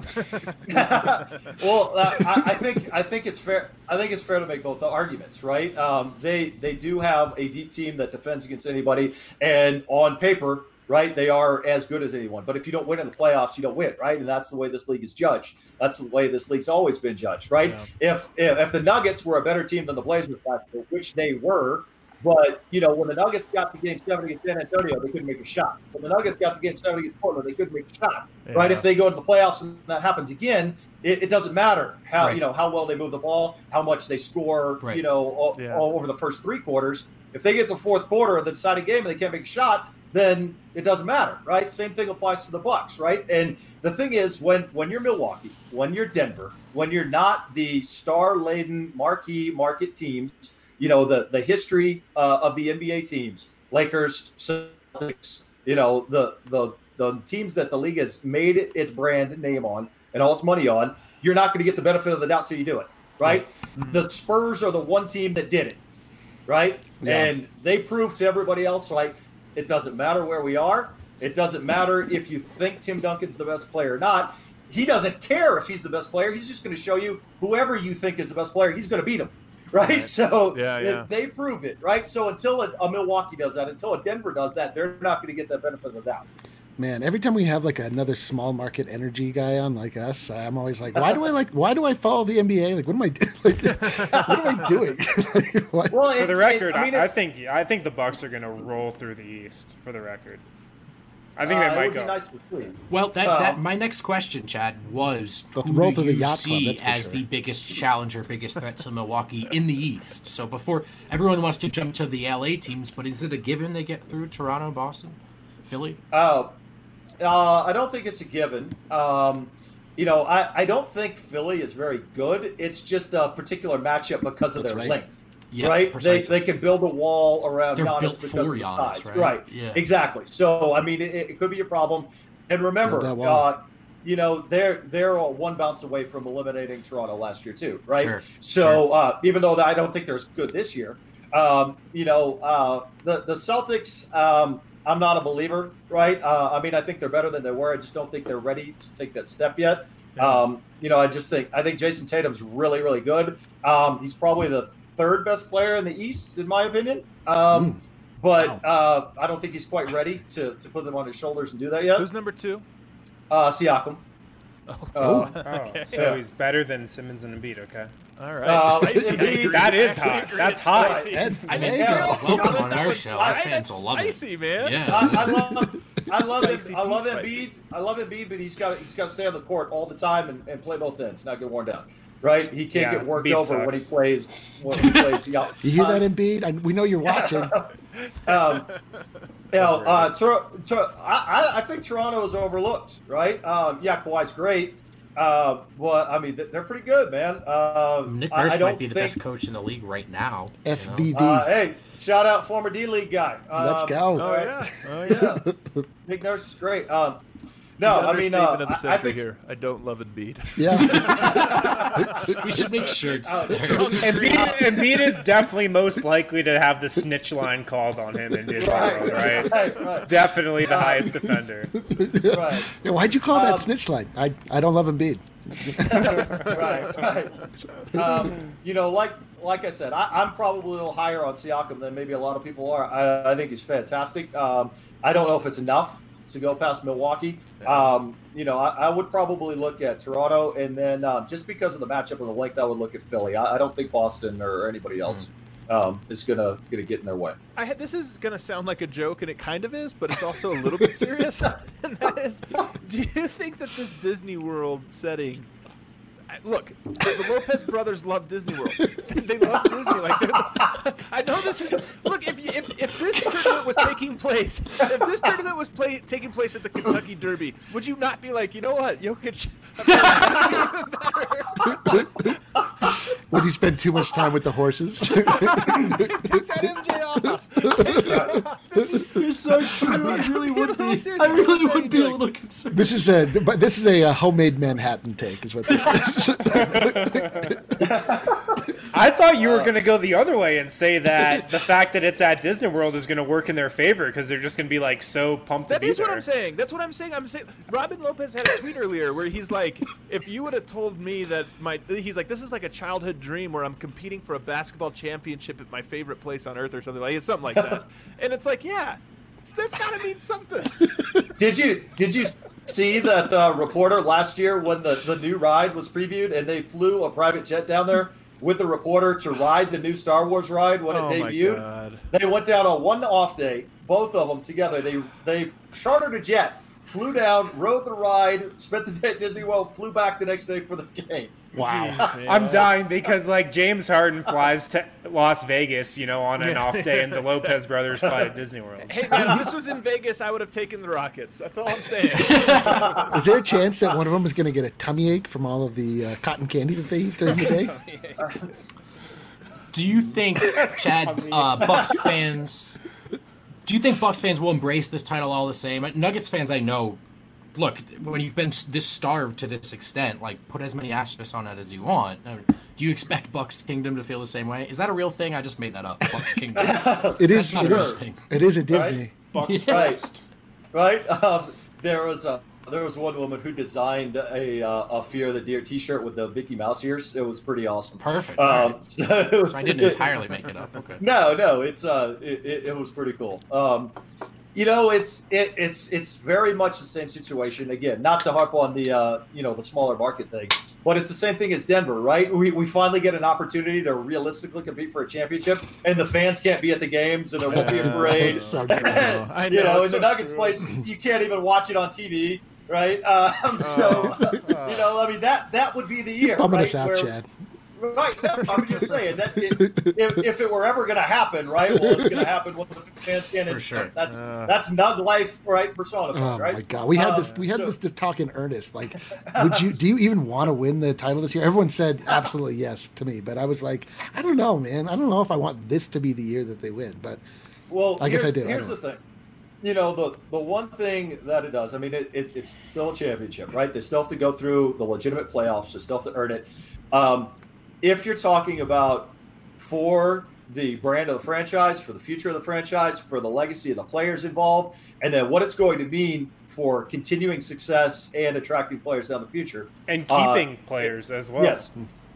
Well, uh, I, I think I think it's fair. I think it's fair to make both the arguments, right? Um, they they do have a deep team that defends against anybody, and on paper, right, they are as good as anyone. But if you don't win in the playoffs, you don't win, right? And that's the way this league is judged. That's the way this league's always been judged, right? Yeah. If, if if the Nuggets were a better team than the Blazers last year, which they were. But, you know, when the Nuggets got to game seven against San Antonio, they couldn't make a shot. When the Nuggets got to game seven against Portland, they couldn't make a shot. Right? Yeah. If they go to the playoffs and that happens again, it, it doesn't matter how, Right. you know, how well they move the ball, how much they score, Right. you know, all, Yeah. all over the first three quarters. If they get the fourth quarter of the deciding game and they can't make a shot, then it doesn't matter, right? Same thing applies to the Bucks, right? And the thing is, when when you're Milwaukee, when you're Denver, when you're not the star-laden marquee market teams, you know, the the history uh, of the N B A teams, Lakers, Celtics, you know, the the the teams that the league has made its brand name on and all its money on, you're not going to get the benefit of the doubt till you do it, right? The Spurs are the one team that did it, right? Yeah. And they proved to everybody else, like, it doesn't matter where we are. It doesn't matter if you think Tim Duncan's the best player or not. He doesn't care if he's the best player. He's just going to show you whoever you think is the best player, he's going to beat him. Right. So Yeah, they- yeah. they prove it. Right. So until a, a Milwaukee does that, until a Denver does that, they're not going to get that benefit of the doubt. Man, every time we have like another small market energy guy on like us, I'm always like, why do I like? Why do I follow the N B A? Like, what am I? Like, what am I doing? Like, what? Well, For the it's- record, it, I, mean, I, I it's, think I think the Bucks are going to roll through the East. For the record, I think uh, they it might would go. be nice to see. Well, that, Um, that my next question, Chad, was They'll who roll do to the you yacht club, see that's for as sure. the biggest challenger, biggest threat to Milwaukee in the East? So before everyone wants to jump to the L A teams, but is it a given they get through Toronto, Boston, Philly? Uh, uh, I don't think it's a given. Um, you know, I, I don't think Philly is very good. It's just a particular matchup because of That's their right. length. Yeah, right? They, precisely. they can build a wall around They're Giannis built because for of his Giannis, size. right? Yeah. Exactly. So, I mean, it, it could be a problem. And remember, Build that wall. uh, you know, they're they're a one bounce away from eliminating Toronto last year too, right? Sure, So, sure. Uh, even though I don't think they're as good this year, um, you know, uh, the the Celtics, um, I'm not a believer, right? Uh, I mean, I think they're better than they were. I just don't think they're ready to take that step yet. Um, you know, I just think I think Jason Tatum's really, really good. Um, he's probably the third best player in the East, in my opinion. Um, Mm. But uh, I don't think he's quite ready to, to put them on his shoulders and do that yet. Who's number two? Uh, Siakam. Uh, Oh, Okay. so Yeah. he's better than Simmons and Embiid. Okay, All right. Uh, Spicy. I Embiid- agree. that is I actually hot. agree. That's It's hot. spicy. Ed, I mean, Yeah. you're welcome on That our was show. Our spicy. fans will love it. Spicy, man. Yeah. I, I love, I love Spicy, it. I love spicy. Embiid. I love Embiid, but he's got he's got to stay on the court all the time and, and play both ends, not get worn down. Right? He can't Yeah, get worked Embiid over when he sucks. plays. When he plays. Yeah. You hear Uh, that, Embiid? I, we know you're watching. Um, you know, uh, Tor- Tor- I, I I think Toronto is overlooked, right? Um, yeah, Kawhi's great, uh, but I mean th- they're pretty good, man. Uh, Nick I, Nurse I don't might be the think, best coach in the league right now. you know? F V V. Uh, hey, shout out former D League guy. Let's Um, go. Oh, all right. yeah. Oh, yeah. Nick Nurse is great. Um, no, The I mean, uh, understatement of the I, I century think here. I don't love Embiid. Yeah. We should make shirts. Uh, Embiid, Embiid is definitely most likely to have the snitch line called on him in Disney World, right? right, right, Definitely the highest defender. right. Yeah, why'd you call Um, that snitch line? I, I don't love Embiid. right, right. Um, you know, like like I said, I, I'm probably a little higher on Siakam than maybe a lot of people are. I, I think he's fantastic. Um, I don't know if it's enough to go past Milwaukee. Um, you know, I, I would probably look at Toronto, and then uh, just because of the matchup and the length, I would look at Philly. I, I don't think Boston or anybody else mm. um, is gonna gonna get in their way. I had, this is gonna sound like a joke, and it kind of is, but it's also a little bit serious. And that is, do you think that this Disney World setting? Look, the Lopez brothers love Disney World. They love Disney. Like, the, I know this is. Look, if you, if if this tournament was taking place, if this tournament was play, taking place at the Kentucky Derby, would you not be like, you know what, Jokic? Would you spend too much time with the horses? Take that M J off. Take it off. This is, You're so true. I really would be. I really would be a little concerned. This is a, but this is a, a homemade Manhattan take, is what this is. I thought you were going to go the other way and say that the fact that it's at Disney World is going to work in their favor because they're just going to be like so pumped that to be is there. What I'm saying. That's what I'm saying. I'm saying. Robin Lopez had a tweet earlier where he's like, if you would have told me that my, he's like, this is like a childhood dream where I'm competing for a basketball championship at my favorite place on earth or something like it's something like that. And it's like, yeah, that's got to mean something. Did you did you see that uh, reporter last year when the, the new ride was previewed and they flew a private jet down there with the reporter to ride the new Star Wars ride when it oh debuted? My God. They went down on one off day, both of them together. They they chartered a jet, flew down, rode the ride, spent the day at Disney World, flew back the next day for the game. Wow. I'm dying because, like, James Harden flies to Las Vegas, you know, on an off day, and the Lopez brothers fly to Disney World. Hey, man, if this was in Vegas, I would have taken the Rockets. That's all I'm saying. Is there a chance that one of them is going to get a tummy ache from all of the uh, cotton candy that they eat during the day? Do you think, Chad, uh, Bucks fans, do you think Bucks fans will embrace this title all the same? Nuggets fans, I know, look, when you've been this starved to this extent, like, put as many asterisks on it as you want. Do you expect Bucks Kingdom to feel the same way? Is that a real thing? I just made that up. Bucks Kingdom. It is. That's not it, a is real thing. It is at Disney. Right? Bucks Right. first. Right? Um, there was a there was one woman who designed a uh, a Fear the Deer T-shirt with the Mickey Mouse ears. It was pretty awesome. Perfect. Um, Right. so it was, So I didn't entirely make it up. Okay. No, no, it's uh, it, it, it was pretty cool. Um, you know, it's it, it's it's very much the same situation. Again, not to harp on the uh, you know, the smaller market thing, but it's the same thing as Denver, right? We we finally get an opportunity to realistically compete for a championship, and the fans can't be at the games, and there won't be a parade. So true. I you know, know, in it's the so Nuggets true. place, you can't even watch it on T V, right? Um, so you know, I mean, that that would be the year, Bumming right? us out, where- Chad. Right, no, I'm just saying that it, if, if it were ever going to happen, right? Well, it's going to happen when the fans can. For sure. That's Uh. that's Nug life, right? Personified, Oh right? my God, we had Um, this. We had so- this, this talk in earnest. Like, would you? Do you even want to win the title this year? Everyone said absolutely yes to me, but I was like, I don't know, man. I don't know if I want this to be the year that they win. But Well, I guess I here's, do. I Here's don't the thing. You know, the the one thing that it does, I mean, it, it, it's still a championship, right? They still have to go through the legitimate playoffs. They still have to earn it. Um, if you're talking about for the brand of the franchise, for the future of the franchise, for the legacy of the players involved, and then what it's going to mean for continuing success and attracting players down the future. And Uh, keeping players as well. Yes.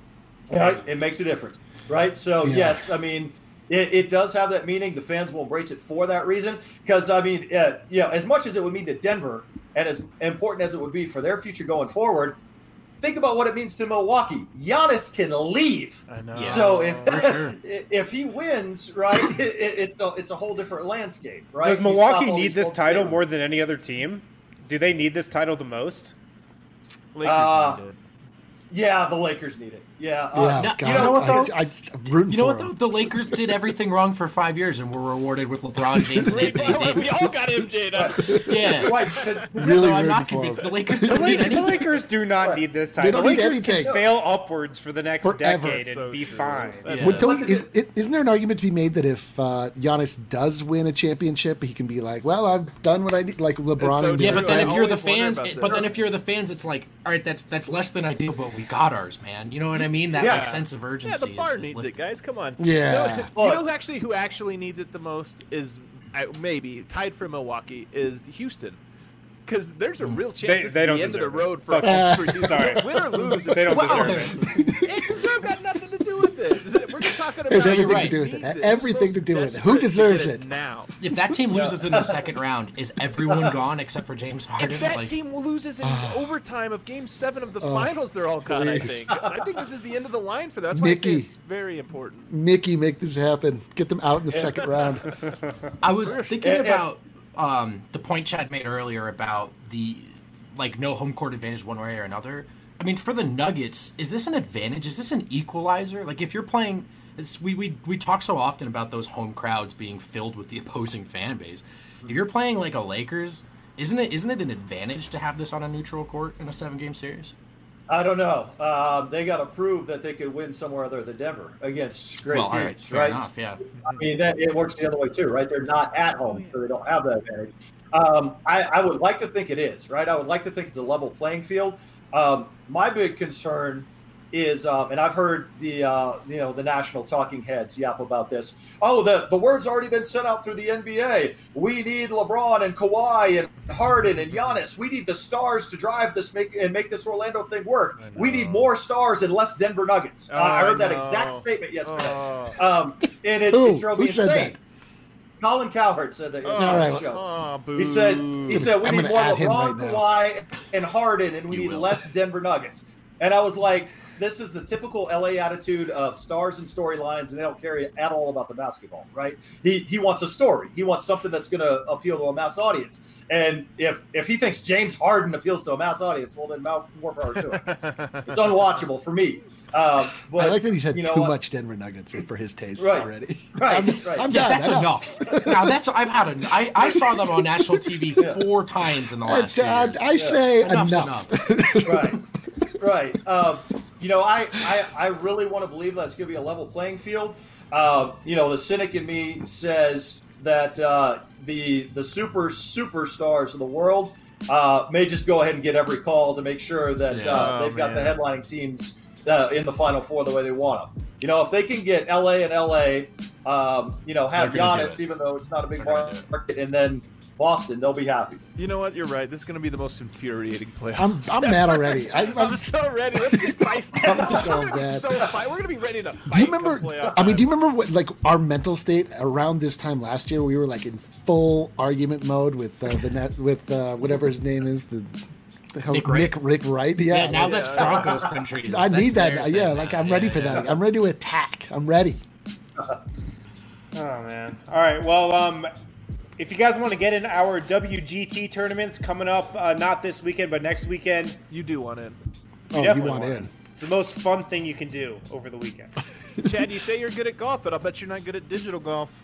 Right? It makes a difference, right? So, Yeah. yes, I mean, it, it does have that meaning. The fans will embrace it for that reason. Because, I mean, uh, you know, as much as it would mean to Denver and as important as it would be for their future going forward, think about what it means to Milwaukee. Giannis can leave. I know. Yeah. So if For sure. if he wins, right, it, it, it's a it's a whole different landscape, right? Does You stop Milwaukee all need these this folks title there. more than any other team? Do they need this title the most? Lakers Uh, need it. Yeah, the Lakers need it. Yeah, uh, yeah, no, God, you know what, though? I, I, I'm rooting You know for what, though? them. The Lakers did everything wrong for five years and were rewarded with LeBron James and Anthony we Davis. all got M J'd up. Yeah. right. Really So I'm rooting not for convinced. them. The Lakers The, don't need Lakers, the anything. Lakers do not Right. need this They title. don't The need Lakers can anything. fail upwards for the next Forever. decade and So be true. fine. Yeah. Would, don't, But is, the- isn't there an argument to be made that if uh, Giannis does win a championship, he can be like, "Well, I've done what I need," like LeBron? so and Yeah, true. but then I if you're the always wonder fans, about it- this. but then if you're the fans, it's like, all right, that's that's less than ideal, but we got ours, man. You know what I mean? That Yeah. like sense of Yeah, urgency. the bar is, is needs lifted. it, guys. Come on. Yeah. You know, Well- you know who actually who actually needs it the most is I, maybe tied for Milwaukee is Houston, because there's a real chance They- this they is don't the end of the deserve it. road for, Fuck. for you. Sorry. Win or lose, it's They don't Wow. deserve it. It deserve got nothing to do with it. We're just talking about It's you're everything right. to do with needs it. it. Everything It's to do with it. desperate Who to deserves get it? now? If that team loses in the second round, is everyone gone except for James Harden? If that Like, team loses in overtime of Game Seven of the finals, they're all gone. I please. think. I think this is the end of the line for them. That's why I say Mickey. it's very important. Mickey, make this happen. Get them out in the second round. I was thinking And- and- about um, the point Chad made earlier about the like no home court advantage one way or another. I mean, for the Nuggets, is this an advantage? Is this an equalizer? Like, if you're playing, it's, we we we talk so often about those home crowds being filled with the opposing fan base. If you're playing like a Lakers, isn't it isn't it an advantage to have this on a neutral court in a seven game series? I don't know. Um, they got to prove that they could win somewhere other than Denver against great Well, all teams, right, fair right? enough, yeah. I mean, that it works the other way too, right? They're not at home, so they don't have that advantage. Um, I, I would like to think it is, right? I would like to think it's a level playing field. Um, my big concern is, um, and I've heard the uh, you know the national talking heads yap about this. Oh, the the word's already been sent out through the N B A. We need LeBron and Kawhi and Harden and Giannis. We need the stars to drive this make and make this Orlando thing work. We need more stars and less Denver Nuggets. Oh, uh, I heard I that know. exact statement yesterday, Oh. um, and it, Who? it drove me Who said insane. that? Colin Cowherd said that. Oh, on right. the show. oh, boo. He said he said we I'm need gonna more add him LeBron, right now. Kawhi, and Harden, and we You need will. less Denver Nuggets. And I was like, this is the typical L A attitude of stars and storylines, and they don't care at all about the basketball, right? He he wants a story. He wants something that's going to appeal to a mass audience. And if if he thinks James Harden appeals to a mass audience, well, then more more power to it. It's, it's unwatchable for me. Um, but, I like that he's had you know too what? much Denver Nuggets for his taste Right. already. Right, I'm, right. I'm Yeah, done. that's I know. enough. Now that's I've had a I, I saw them on national T V four times in the last two I, years. I say Enough's enough. right, right. Um, you know, I, I, I really want to believe that it's going to be a level playing field. Um, you know, the cynic in me says that uh, the the super superstars of the world uh, may just go ahead and get every call to make sure that Yeah. uh, Oh, they've got the man. headlining teams uh, in the Final Four the way they want them. You know, if they can get L A and L A, um, you know, have They're gonna do Giannis, it. even though it's not a big They're gonna do it. market, and then Boston, they'll be happy. You know what? You're right. This is going to be the most infuriating playoffs. I'm I'm mad already. I, I'm I'm, so ready. Let's get feisty. I'm We're so gonna be mad. so fight. We're gonna be ready to fight. do you remember? come playoff I mean, do you time. remember what like our mental state around this time last year? We were like in full argument mode with uh, the net with uh, whatever his name is. The, the hell, Nick Wright. Nick Rick Wright. Yeah, Yeah, now like, that's Broncos country. I That's need that. their now. thing Yeah, now. like I'm Yeah, ready for yeah. that. I'm ready to attack. I'm ready. Oh man! All right. Well, um, if you guys want to get in our W G T tournaments coming up, uh, not this weekend, but next weekend, You do want in. Oh, you definitely want want in? it's the most fun thing you can do over the weekend. Chad, you say you're good at golf, but I'll bet you're not good at digital golf.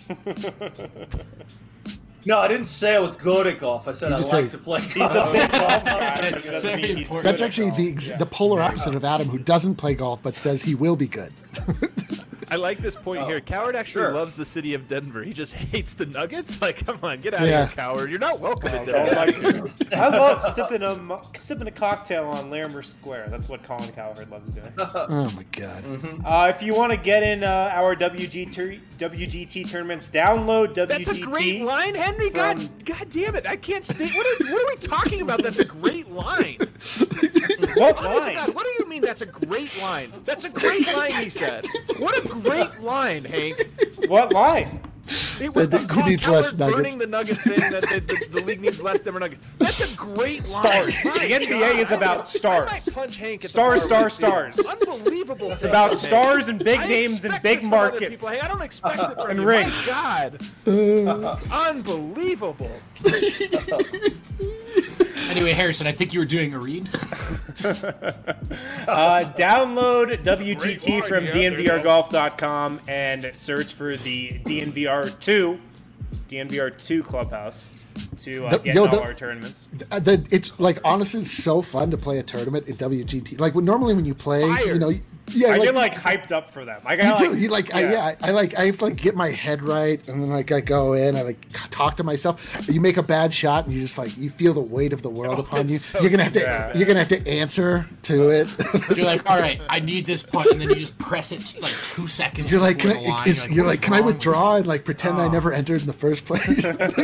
No, I didn't say I was good at golf. I said You I just like say- to play He's golf. a big golf guy. It doesn't Very mean he's important. good That's at actually golf. the ex- Yeah. the polar opposite of Adam, who doesn't play golf but says he will be good. I like this point Oh, here. Coward actually sure. loves the city of Denver. He just hates the Nuggets. Like, come on, get out Yeah. of here, Coward. You're not welcome in Oh, Denver. Get out of here. I love sipping a mo- sipping a cocktail on Larimer Square. That's what Colin Cowherd loves doing. Oh my god. Uh, if you want to get in uh, our W G T W G T tournaments, download W G T. That's a great line, Henry. from- God, God damn it! I can't stay. What are, what are we talking about? That's a great line. What Honest to line? God, what do you mean? That's a great line. That's a great line. He said. What a great line, Hank. What line? It was The- the- Colin he needs less Cowherd nuggets. burning the Nuggets, saying that the, the, the league needs less Denver Nuggets. That's a great line. Stars. My The N B A God. is about I might stars. punch Hank at Stars, the bar stars, with you. stars. Unbelievable. It's about stars and big I names and expect big this from other markets. people. Hey, I don't expect it from And you. rings. My God. Unbelievable. Anyway, Harrison, I think you were doing a read. Uh, download W G T Great line, from yeah, D N there V you R go. golf dot com and search for the D N V R two, D N V R two Clubhouse to uh, The- get yo, in all the- our tournaments. Uh, the, it's like honestly it's so fun to play a tournament at W G T. Like when, normally when you play, Fire. you know, Yeah, I like, get like hyped up for them. Like, you I do. like, You like, I, yeah, I, I like, I have to like get my head right, and then like I go in, I like talk to myself. You make a bad shot, and you just like you feel the weight of the world Oh, upon you. it's so You're gonna have to, bad. you're gonna have to answer to it. You're like, all right, I need this putt, and then you just press it t- like two seconds. You're like, before can the I, line. is, you're "What's like, can I wrong with withdraw you?" and like pretend I never entered in the first place?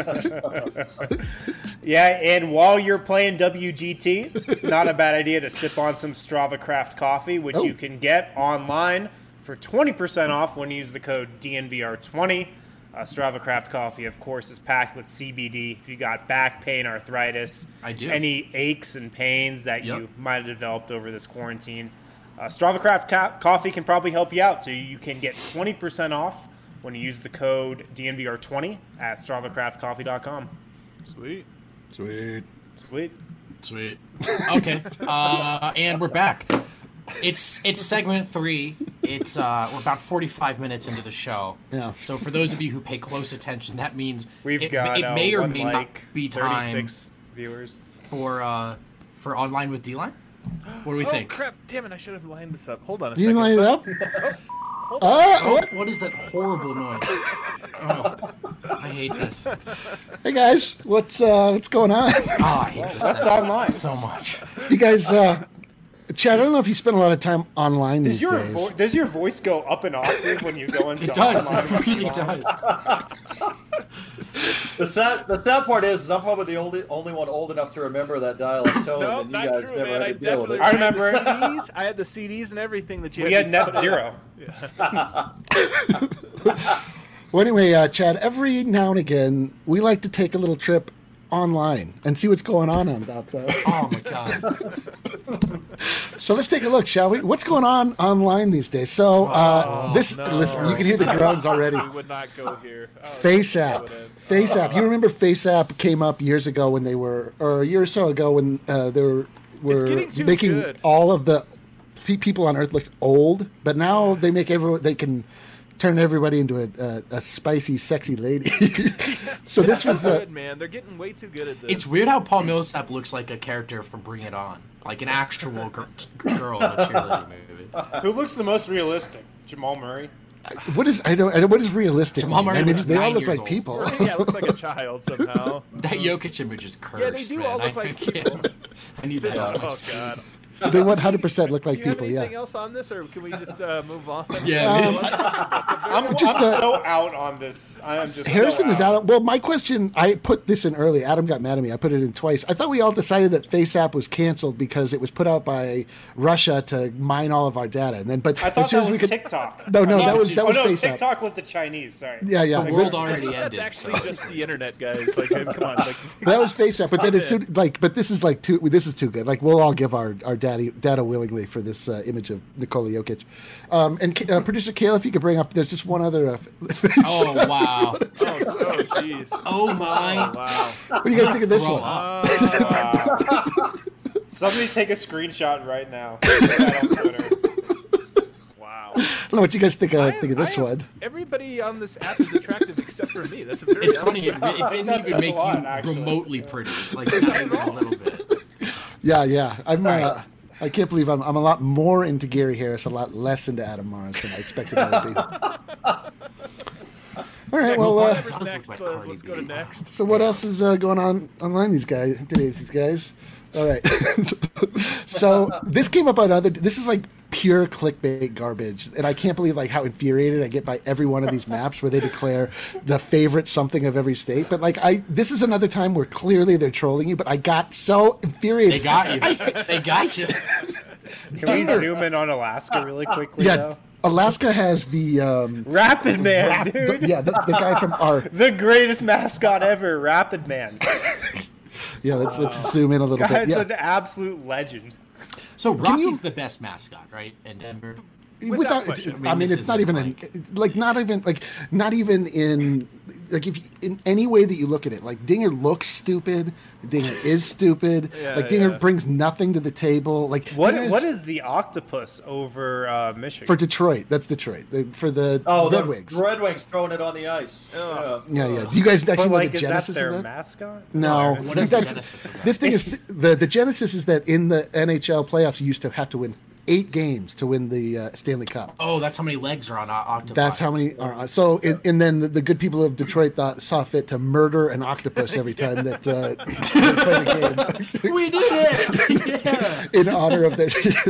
yeah. And while you're playing W G T, not a bad idea to sip on some Strava Craft coffee, which Oh. you can get online for twenty percent off when you use the code D N V R twenty. Uh, Strava Craft coffee, of course, is packed with C B D. If you got back pain, arthritis, I do. any aches and pains that Yep. you might have developed over this quarantine, uh, Strava Craft ca- coffee can probably help you out. So you can get twenty percent off when you use the code D N V R twenty at strava craft coffee dot com. Sweet. Sweet. Sweet. Sweet. Okay. Uh, and we're back. It's it's segment three. It's uh, we're about forty-five minutes into the show. Yeah. So for those of you who pay close attention, that means We've it, got it uh, may or one may like not be time thirty-six viewers. for uh, for online with D-Line. What do we Oh think? crap! Damn it! I should have lined this up. Hold on a You second. line it up? Hold Uh, on. oh, What, what is that horrible noise? Oh, I hate this. hey guys, what's uh, what's going on? Oh, I hate this That's segment online. so much. You guys, uh, Chad, I don't know if you spend a lot of time online Does these your days. vo- does your voice go up an octave when you go into It does. online? It really does. The sad, the sad part is, is I'm probably the only only one old enough to remember that dial-up tone, No, and you not guys true, never man. had I to deal with definitely it. I remember had it. the C Ds. I had the C Ds and everything that you We had had to net put in. zero. Well, anyway, uh, Chad, every now and again, we like to take a little trip online and see what's going on out there. Oh my god. So let's take a look, shall we? What's going on online these days? So uh, Oh, this, no. listen, you can hear the groans already. We would not go here. Oh, FaceApp. go in. FaceApp. You remember FaceApp came up years ago when they were, or a year or so ago when uh, they were, were getting too making good. all of the pe- people on Earth look old, but now they make everyone, they can turn everybody into a, a, a spicy, sexy lady. So this was uh, good, man. They're getting way too good at this. It's weird how Paul Millsap looks like a character from Bring It On, like an actual gr- girl in a cheerleading movie. Who looks the most realistic? Jamal Murray. what is I don't I don't what is realistic? Jamal mean? Murray I mean, looks they all nine look years like old. people. yeah, it looks like a child somehow. That Jokic image is cursed. Yeah, they do man. all look I, like I can't- I need that out of my Oh screen. god. They one hundred percent look like Do you have people. anything Yeah. else on this, or can we just uh, move on? Yeah, Um, man. I'm Just, I'm uh, so out on this. I am just Harrison so is out. Well, my question, I put this in early. Adam got mad at me. I put it in twice. I thought we all decided that FaceApp was canceled because it was put out by Russia to mine all of our data. And then, but I thought as soon that as was we could, TikTok. No, no, I that thought- was that oh was no, FaceApp. TikTok was the Chinese. Sorry. Yeah, yeah. The Like, world that- already That's ended. actually so. just the internet, guys. Like, come on. Like, That was FaceApp, but then as soon like, but this is like too. This is too good. Like, we'll all give our our daddy data willingly for this uh, image of Nikola Jokic. Um, and uh, producer Kayla, if you could bring up, there's just one other. Uh, Oh wow. oh, oh, jeez. Oh my. Oh, wow. what do you guys think of this Throw one? up. Wow. Somebody take a screenshot right now. Put that on Twitter. Wow. I don't know what you guys think. Uh, I think am- of this I am- one. Everybody on this app is attractive except for me. That's a very It's funny. It, it That didn't even says a make lot, you actually. remotely pretty. Like not even a little bit. Yeah, yeah. I'm. Uh, I can't believe I'm. I'm a lot more into Gary Harris, a lot less into Adam Morris than I expected I would be. All right. Well, uh, Whatever's does look next, like uh, Cardi let's go to B. next. so what else is uh, going on online these guys today's these guys? All right. So this came up on other. This is like pure clickbait garbage, and I can't believe like how infuriated I get by every one of these maps where they declare the favorite something of every state. But like I, this is another time where clearly they're trolling you. But I got so infuriated. They got you. They got you. Can we zoom in on Alaska really quickly? Yeah, though? Alaska has the um, Rapid Man, rap- dude. the- yeah, the, the guy from our The greatest mascot ever, Rapid Man. yeah. Let's let's zoom in a little Guy's bit. Yeah. an absolute legend. So Rocky's you- the best mascot, right? In Denver. Without, question. I I mean, mean, this it's not isn't even in, like not even like not even in like if you, in any way that you look at it, like Dinger looks stupid, Dinger is stupid, Yeah, like Dinger yeah. brings nothing to the table. Like What Dinger's- what is the octopus over uh, Michigan? for Detroit? That's Detroit. The- For the Oh, Red the Wings. Red Wings throwing it on the ice. Yeah. Yeah, yeah. Do you guys actually but know like, the is that genesis their of that? mascot? No, What is the that's- genesis of that? This thing is the the genesis is that in the N H L playoffs, you used to have to win eight games to win the uh, Stanley Cup. Oh, that's how many legs are on o- octopi. That's how many are on. So, and, and then the, the good people of Detroit thought saw fit to murder an octopus every time that uh, they played a game. We did it! Yeah. In honor of their.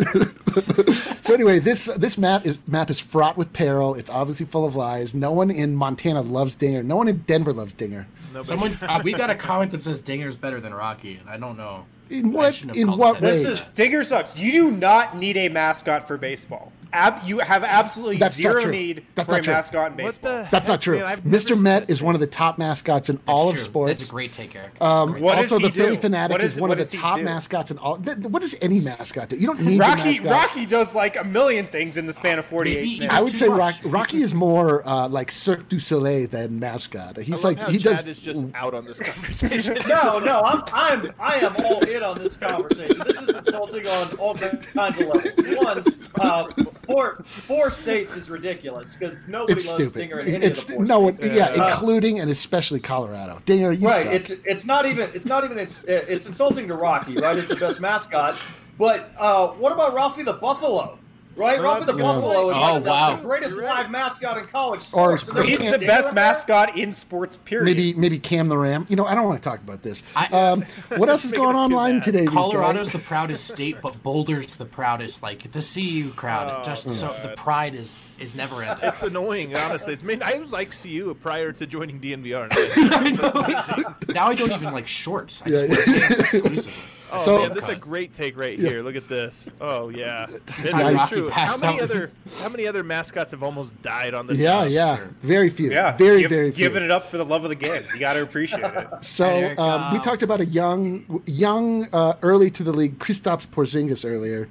So anyway, this this map is map is fraught with peril. It's obviously full of lies. No one in Montana loves Dinger. No one in Denver loves Dinger. Nobody. Someone, uh, we got a comment that says Dinger's better than Rocky, and I don't know. In I what shouldn't have in called what it that. way? This is Digger sucks. You do not need a mascot for baseball. Ab, you have absolutely That's not zero true. need That's for a not true. mascot in What baseball. the That's not heck, true. man? I've Mister never Met seen is one of the top mascots in all That's of true. sports. That's a great take, Eric. Um, What does also, he the Philly do? Fanatic What is is- one what of the does he top do? mascots in all. Th- what does any mascot do? You don't need a Rocky mascot. Rocky does like a million things in the span of forty-eight Maybe minutes. even I would too say much. Rock, Rocky is more uh, like Cirque du Soleil than mascot. He's I love like how he Chad does. is just out on this conversation. No, no, I'm, I'm, I am all in on this conversation. This is insulting on all kinds of levels. One, uh, four, four states is ridiculous because nobody It's loves stupid. Stinger in any It's of the four no, it, states. yeah, Uh, including and especially Colorado. Dinger, you Right, suck. it's it's not even it's not even it's it's insulting to Rocky, right? It's the best mascot, but uh, what about Ralphie the Buffalo? Right, Oh, Ralphie that's the a good Buffalo is point. like Oh, the, wow. the greatest You're right. live mascot in college Or sports. it's And then great. He's you the get best Dinger up mascot in sports. Period. maybe maybe Cam the Ram. You know, I don't want to talk about this. I- Um, what else is Making going us too online mad. today? these Colorado's guys? the proudest state, but Boulder's the proudest. Like the C U crowd, Oh, just so the God. pride is is never ending. It's annoying, honestly. It's made, I was like C U prior to joining D N V R. I know. Now I don't even like shorts. I Yeah, just wear pants exclusively. Oh So- man, this is a great take right here. Look at this. Oh yeah, It how is Rocky true. How passed many out. other how many other mascots have almost died on this? Yeah, job? yeah, Sure. very few. yeah, very give- very few. giving it up for the love of the game. You got to appreciate it. So Eric, um, we uh, talked about a young, young, uh, early to the league, Kristaps Porzingis earlier.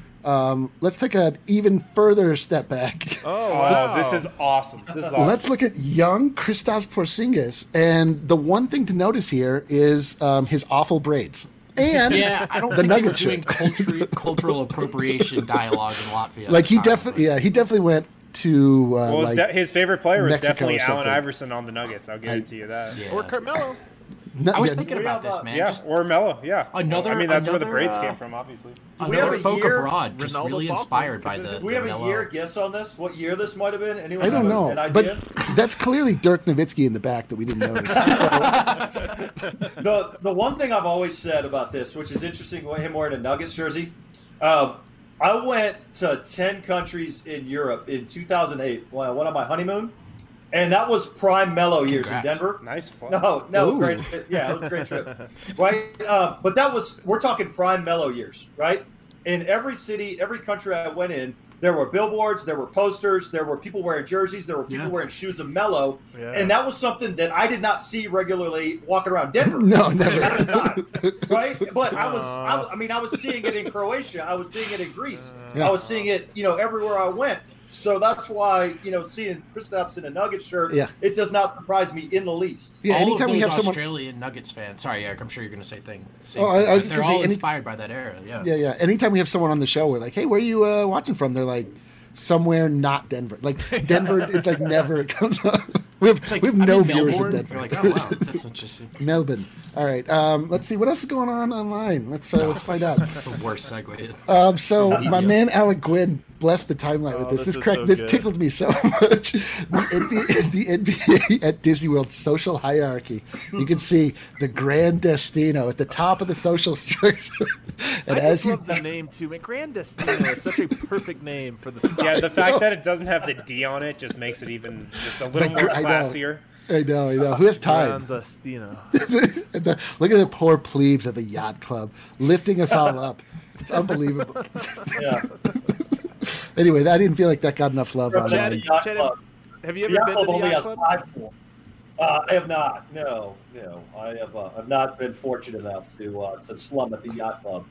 Um, let's take an even further step back. Oh Oh, wow. this is awesome. This is awesome. Let's look at young Kristaps Porzingis, and the one thing to notice here is um, his awful braids. And Yeah, I don't the think they were Nugget doing shirt. cultural cultural appropriation dialogue in Latvia. Like he at the time, definitely, yeah, he definitely went to uh, Well, his, like de- his favorite player was Mexico definitely or Allen something. Iverson on the Nuggets. I'll guarantee you that. Yeah. Or Carmelo. no- I was yeah, thinking We about have, this, uh, man. Yeah, Just or Melo. Yeah. Another- I mean, that's where the another, braids uh, came from, obviously. we another have a folk year? abroad, just Ronaldo really Ball? inspired by the. Do we have the a mellow- year guess on this? What year this might have been? Anyone I don't have know, an idea? but that's clearly Dirk Nowitzki in the back that we didn't notice. the the one thing I've always said about this, which is interesting, him wearing a Nuggets jersey. Um, I went to ten countries in Europe in two thousand eight. When I went on my honeymoon, and that was prime Mellow years in Congrats. Denver. Nice fun. No, no, Ooh. great. Yeah, it was a great trip, right? Uh, but that was we're talking prime Mellow years, right? In every city, every country I went in, there were billboards, there were posters, there were people wearing jerseys, there were people Yeah. wearing shoes of Mellow, Yeah. and that was something that I did not see regularly walking around Denver. No, never. At the time, right? But I was, Aw. I, I mean, I was seeing it in Croatia, I was seeing it in Greece, Yeah. I was seeing it, you know, everywhere I went. So that's why, you know, seeing Kristaps in a Nugget shirt, Yeah. it does not surprise me in the least. Yeah, All anytime of we those have someone. Australian Nuggets fans. Sorry, Eric. I'm sure you're going to say thing. Same Oh, I- I thing, was but just they're gonna say all any- inspired by that era. Yeah. Yeah, yeah. Anytime we have someone on the show, we're like, "Hey, where are you uh, watching from?" They're like, "Somewhere not Denver." Like Denver, it's like never comes up. We have It's like we have I no mean, viewers Melbourne. in Denver. You're like, oh wow, that's interesting. Melbourne. All right. Um, let's see what else is going on online. Let's uh, let's find out. The worst segue. Um, so my Yeah. man Alec Gwynn blessed the timeline with Oh, this. this This is crack, so this good. tickled me so much. The N B A, the N B A at Disney World's social hierarchy. You can see the Grand Destino at the top of the social structure. And I as just you love the name too. Man, Grand Destino is such a perfect name for the. Yeah, the fact that it doesn't have the D on it just makes it even just a little Like, more I know. classier. I know, I know. Who has time? Grand Destino. And the- look at the poor plebes at the yacht club lifting us all up. It's unbelievable. Yeah. Anyway, I didn't feel like that got enough love Chad, online. Yacht Chad, Club. have you The ever yacht been club to the only yacht has club? five pool. Uh, I have not. No, no. I have. Uh, I've not been fortunate enough to uh, to slum at the yacht club.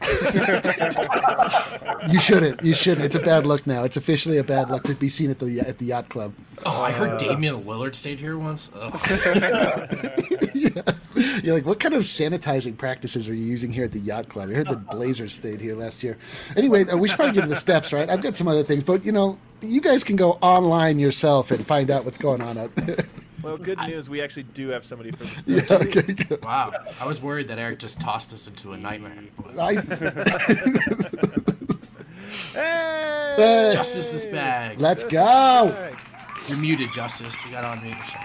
You shouldn't. You shouldn't. It's a bad look now. It's officially a bad look to be seen at the at the yacht club. Oh, I Uh, heard Damian Lillard stayed here once. Oh. Yeah. You're like, what kind of sanitizing practices are you using here at the yacht club? I heard the Blazers stayed here last year. Anyway, uh, we should probably get to the steps, right? I've got some other things, but you know, you guys can go online yourself and find out what's going on out there. Well, good news. We actually do have somebody for the Yeah, stage. okay, good. Wow, I was worried that Eric just tossed us into a nightmare. I, Hey! Hey! Justice is back. Let's go. You're muted, Justice. You got to unmute yourself.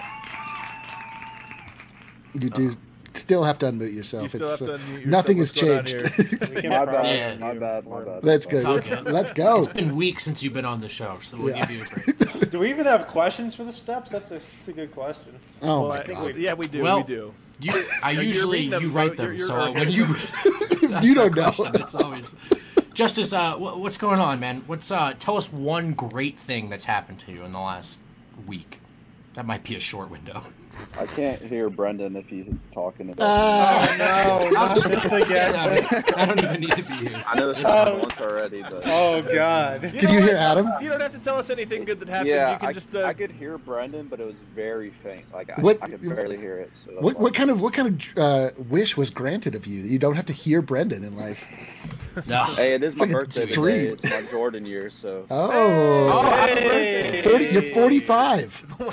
You do still have to unmute yourself. You still it's, have to uh, unmute yourself. nothing has What's going on changed. We can My probably- bad, my bad, my bad. That's good. It's all good. Let's go. It's been weeks since you've been on the show, so we'll Yeah. give you a break. Do we even have questions for the steps? That's a, that's a good question. Oh Well, my I think god. we, yeah, we do. Well, we do. You, I You're usually reading them, you bro. write them, You're- you're so uh, okay. when you ask You that don't know. question, it's always Justice. Uh, wh- what's going on, man? What's uh? Tell us one great thing that's happened to you in the last week. That might be a short window. I can't hear Brendan if he's talking about. Uh, No, not this again. I don't even need to be here. I know this happened once already, but Oh God. Did know you hear what? Adam? You don't have to tell us anything good that happened. yeah, you can I, just. Uh, I could hear Brendan, but it was very faint. Like I, What- I could barely hear it. So that's What why. what kind of what kind of uh, wish was granted of you that you don't have to hear Brendan in life? No. Hey, it is my like a birthday today. dream. It's my Jordan year, so. Oh, Hey. thirty, you're forty-five.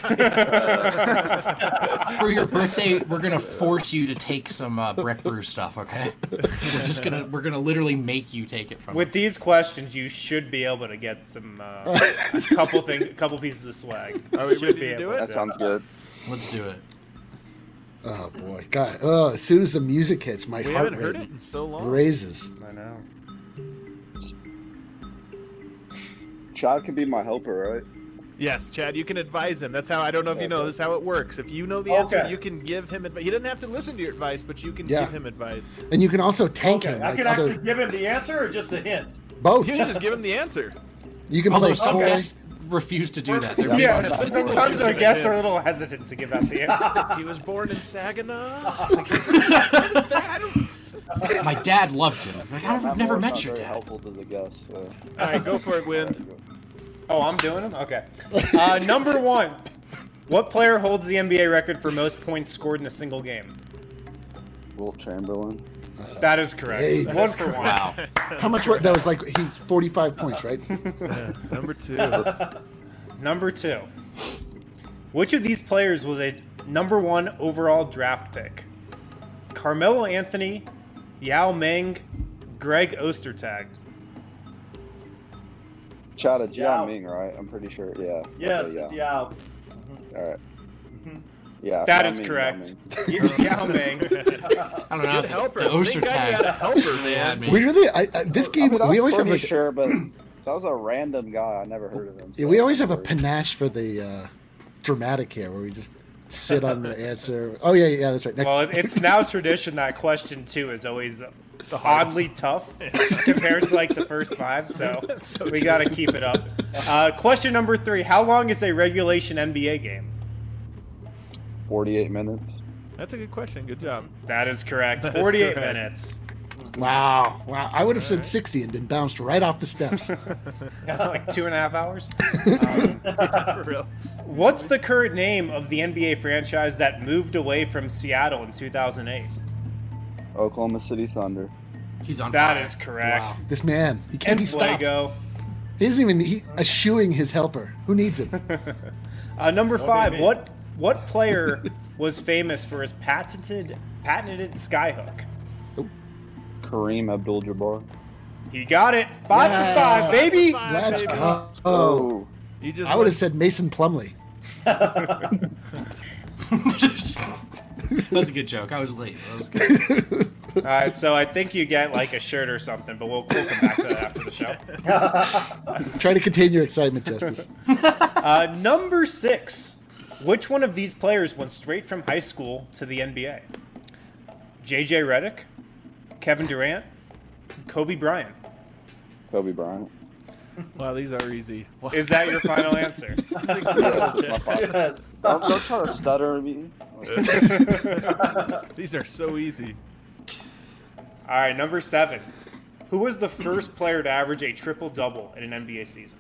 For your birthday, we're gonna force you to take some uh, Brett Brew stuff. Okay? We're just gonna we're gonna literally make you take it from. With us. these questions, you should be able to get some uh, a couple thing, a couple pieces of swag. Are we Should ready be to do able it? That sounds good. Let's do it. Oh boy, God! Oh, as soon as the music hits, my we heart haven't heard rate it in so long. raises. I know. Chad can be my helper, right? Yes, Chad, you can advise him. That's how. I don't know if you know this. Is how it works. If you know the answer, Okay. you can give him advice. He doesn't have to listen to your advice, but you can Yeah. give him advice. And you can also tank Okay, him. I Like can other, actually give him the answer or just a hint. both. You can just give him the answer. You can Although play some four. guests refuse to do that. They're Yeah, being sometimes our guests are a little hesitant to give out the answer. He was born in Saginaw. My dad loved him. Like, I've Matt never Moore's met not your very dad. helpful to the guests. So. All right, go for it, Wind. Oh, I'm doing them? Okay. Uh, number one. What player holds the N B A record for most points scored in a single game? Wilt Chamberlain. That is correct. Hey. one for one. Wow. How much? wa- That was like he's forty-five points, right? Number two. Number two. Which of these players was a number one overall draft pick? Carmelo Anthony, Yao Ming, Greg Ostertag. Chad, it's Yeah. Yao Ming, right? I'm pretty sure. Yeah. Yes, Okay, it's yeah. Yao. All right. Yeah. That Yao is Ming, correct. Yao Ming. It's Yao Ming. I don't know. Good helper. The, the Oster Thank God you tag. had a helper, They had man. me. We really, I, I, this I game, mean, I we was always have pretty like, sure, but that was a random guy. I never heard of him. yeah, so we always have a no worries. panache for the uh, dramatic here, where we just sit on the answer. Oh yeah, yeah, that's right. Next, Well, it- it's now tradition that question two is always oddly tough compared to like the first five, so, we got to keep it up. Uh, question number three. How long is a regulation N B A game? forty-eight minutes. That's a good question. Good job. That is correct. That is forty-eight correct. minutes. wow, wow. I would have said sixty and been bounced right off the steps. Like two and a half hours. For real. What's the current name of the N B A franchise that moved away from Seattle in two thousand eight? Oklahoma City Thunder. He's on That fire. is correct. Wow, this man, he can't And be stopped. Fuego. He isn't even he, eschewing his helper. Who needs him? Uh, number five. me. What what player was famous for his patented patented skyhook? Kareem Abdul-Jabbar. He got it. Five Yeah. for five, baby. Five, Let's baby. go. Oh. You just I would have went- said Mason Plumley. That's a good joke. I was late. That was good. All right, so I think you get like a shirt or something, but we'll, we'll come back to that after the show. Try to contain your excitement, Justice. Uh, number six. Which one of these players went straight from high school to the N B A? J J Redick, Kevin Durant, Kobe Bryant. Kobe Bryant. Wow, these are easy. Wow. Is that your final answer? Yeah, my fault. don't, don't try to stutter at me. These are so easy. All right, number seven. Who was the first player to average a triple-double in an N B A season?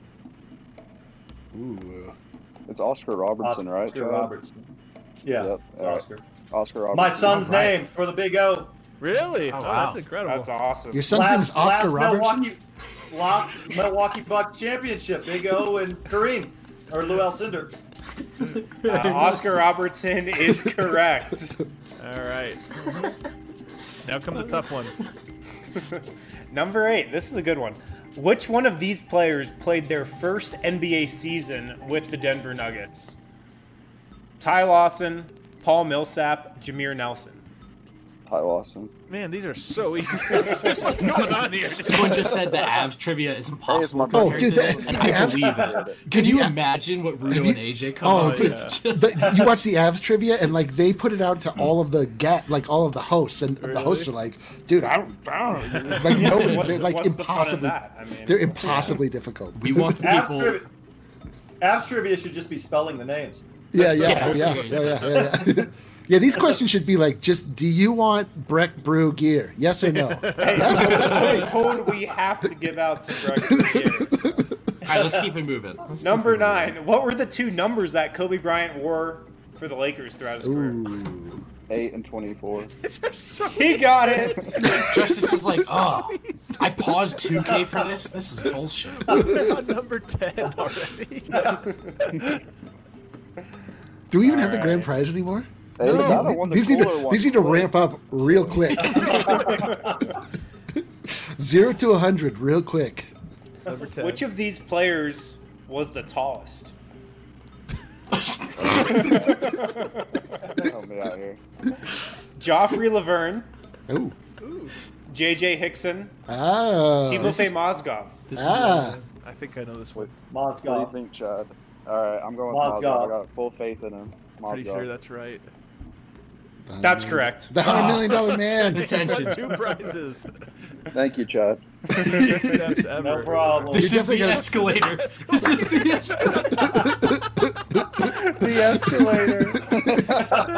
Ooh. It's Oscar Robertson, right? Oscar Chad? Robertson. Yeah, Yep, it's all right. Oscar. Oscar Robertson. My son's All right. name for the Big O. Really? Oh, Oh, wow. that's incredible. That's awesome. Your son's name is Oscar Robertson? Milwaukee, last Milwaukee Bucks championship. Big O and Kareem or Lou Alcindor. Uh, Oscar Robertson is correct. All right. Now come the tough ones. Number eight. This is a good one. Which one of these players played their first N B A season with the Denver Nuggets? Ty Lawson, Paul Millsap, Jameer Nelson. Ty Lawson. Man, these are so easy. What's going on here? Someone just said the Avs trivia is impossible Hey, compared oh, dude, to that- this, and the I Avs- believe it. Can you imagine what Rudo you- and A J come Oh, up dude, with? the, you watch the Avs trivia, and like they put it out to all of the get, like all of the hosts, and the hosts are like, "Dude, I don't, I don't like nobody, What's- they're like what's the fun in impossibly, that? I mean- they're impossibly difficult." We want the Avs people. trivia, Avs trivia should just be spelling the names. Yeah, That's yeah, so yeah, serious. yeah, yeah, yeah, yeah. Yeah, these questions should be like, just do you want Breck Brew gear? Yes or no? Hey, I was told we have to give out some breakfast here. All right, let's keep it moving. Let's keep Number it moving. nine. What were the two numbers that Kobe Bryant wore for the Lakers throughout his career? Ooh. Eight and twenty-four. These are so He got it. Justice is like, oh, I paused two K for this. This is bullshit. We're on number ten already. Do we even have the All grand right. prize anymore? Hey, These- I don't want the these need cooler to one. these need to ramp up real quick. Zero to a hundred, real quick. Number ten. Which of these players was the tallest? Help me out here. Joffrey Laverne, Oh, J J Hickson, ah, Timofey Mozgov. This is ah. I think I know this one. What do you Mozgov. think, Chad? All right, I'm going with Mozgov. Mozgov. I got full faith in him. Pretty Mozgov. sure that's right. That's correct. The hundred million dollar man. attention. Two prizes. Thank you, Chad. Steps ever. No problem. This You're is the definitely escalator. This is the escalator. The escalator.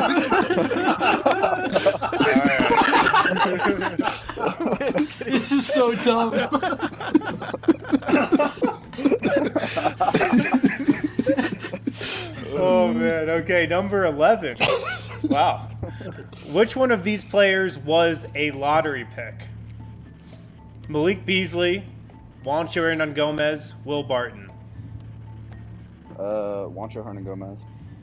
This is so dumb. Oh man. Okay, number eleven. Wow. Which one of these players was a lottery pick? Malik Beasley, Juancho Hernan Gomez, Will Barton. Uh, Juancho Hernan Gomez.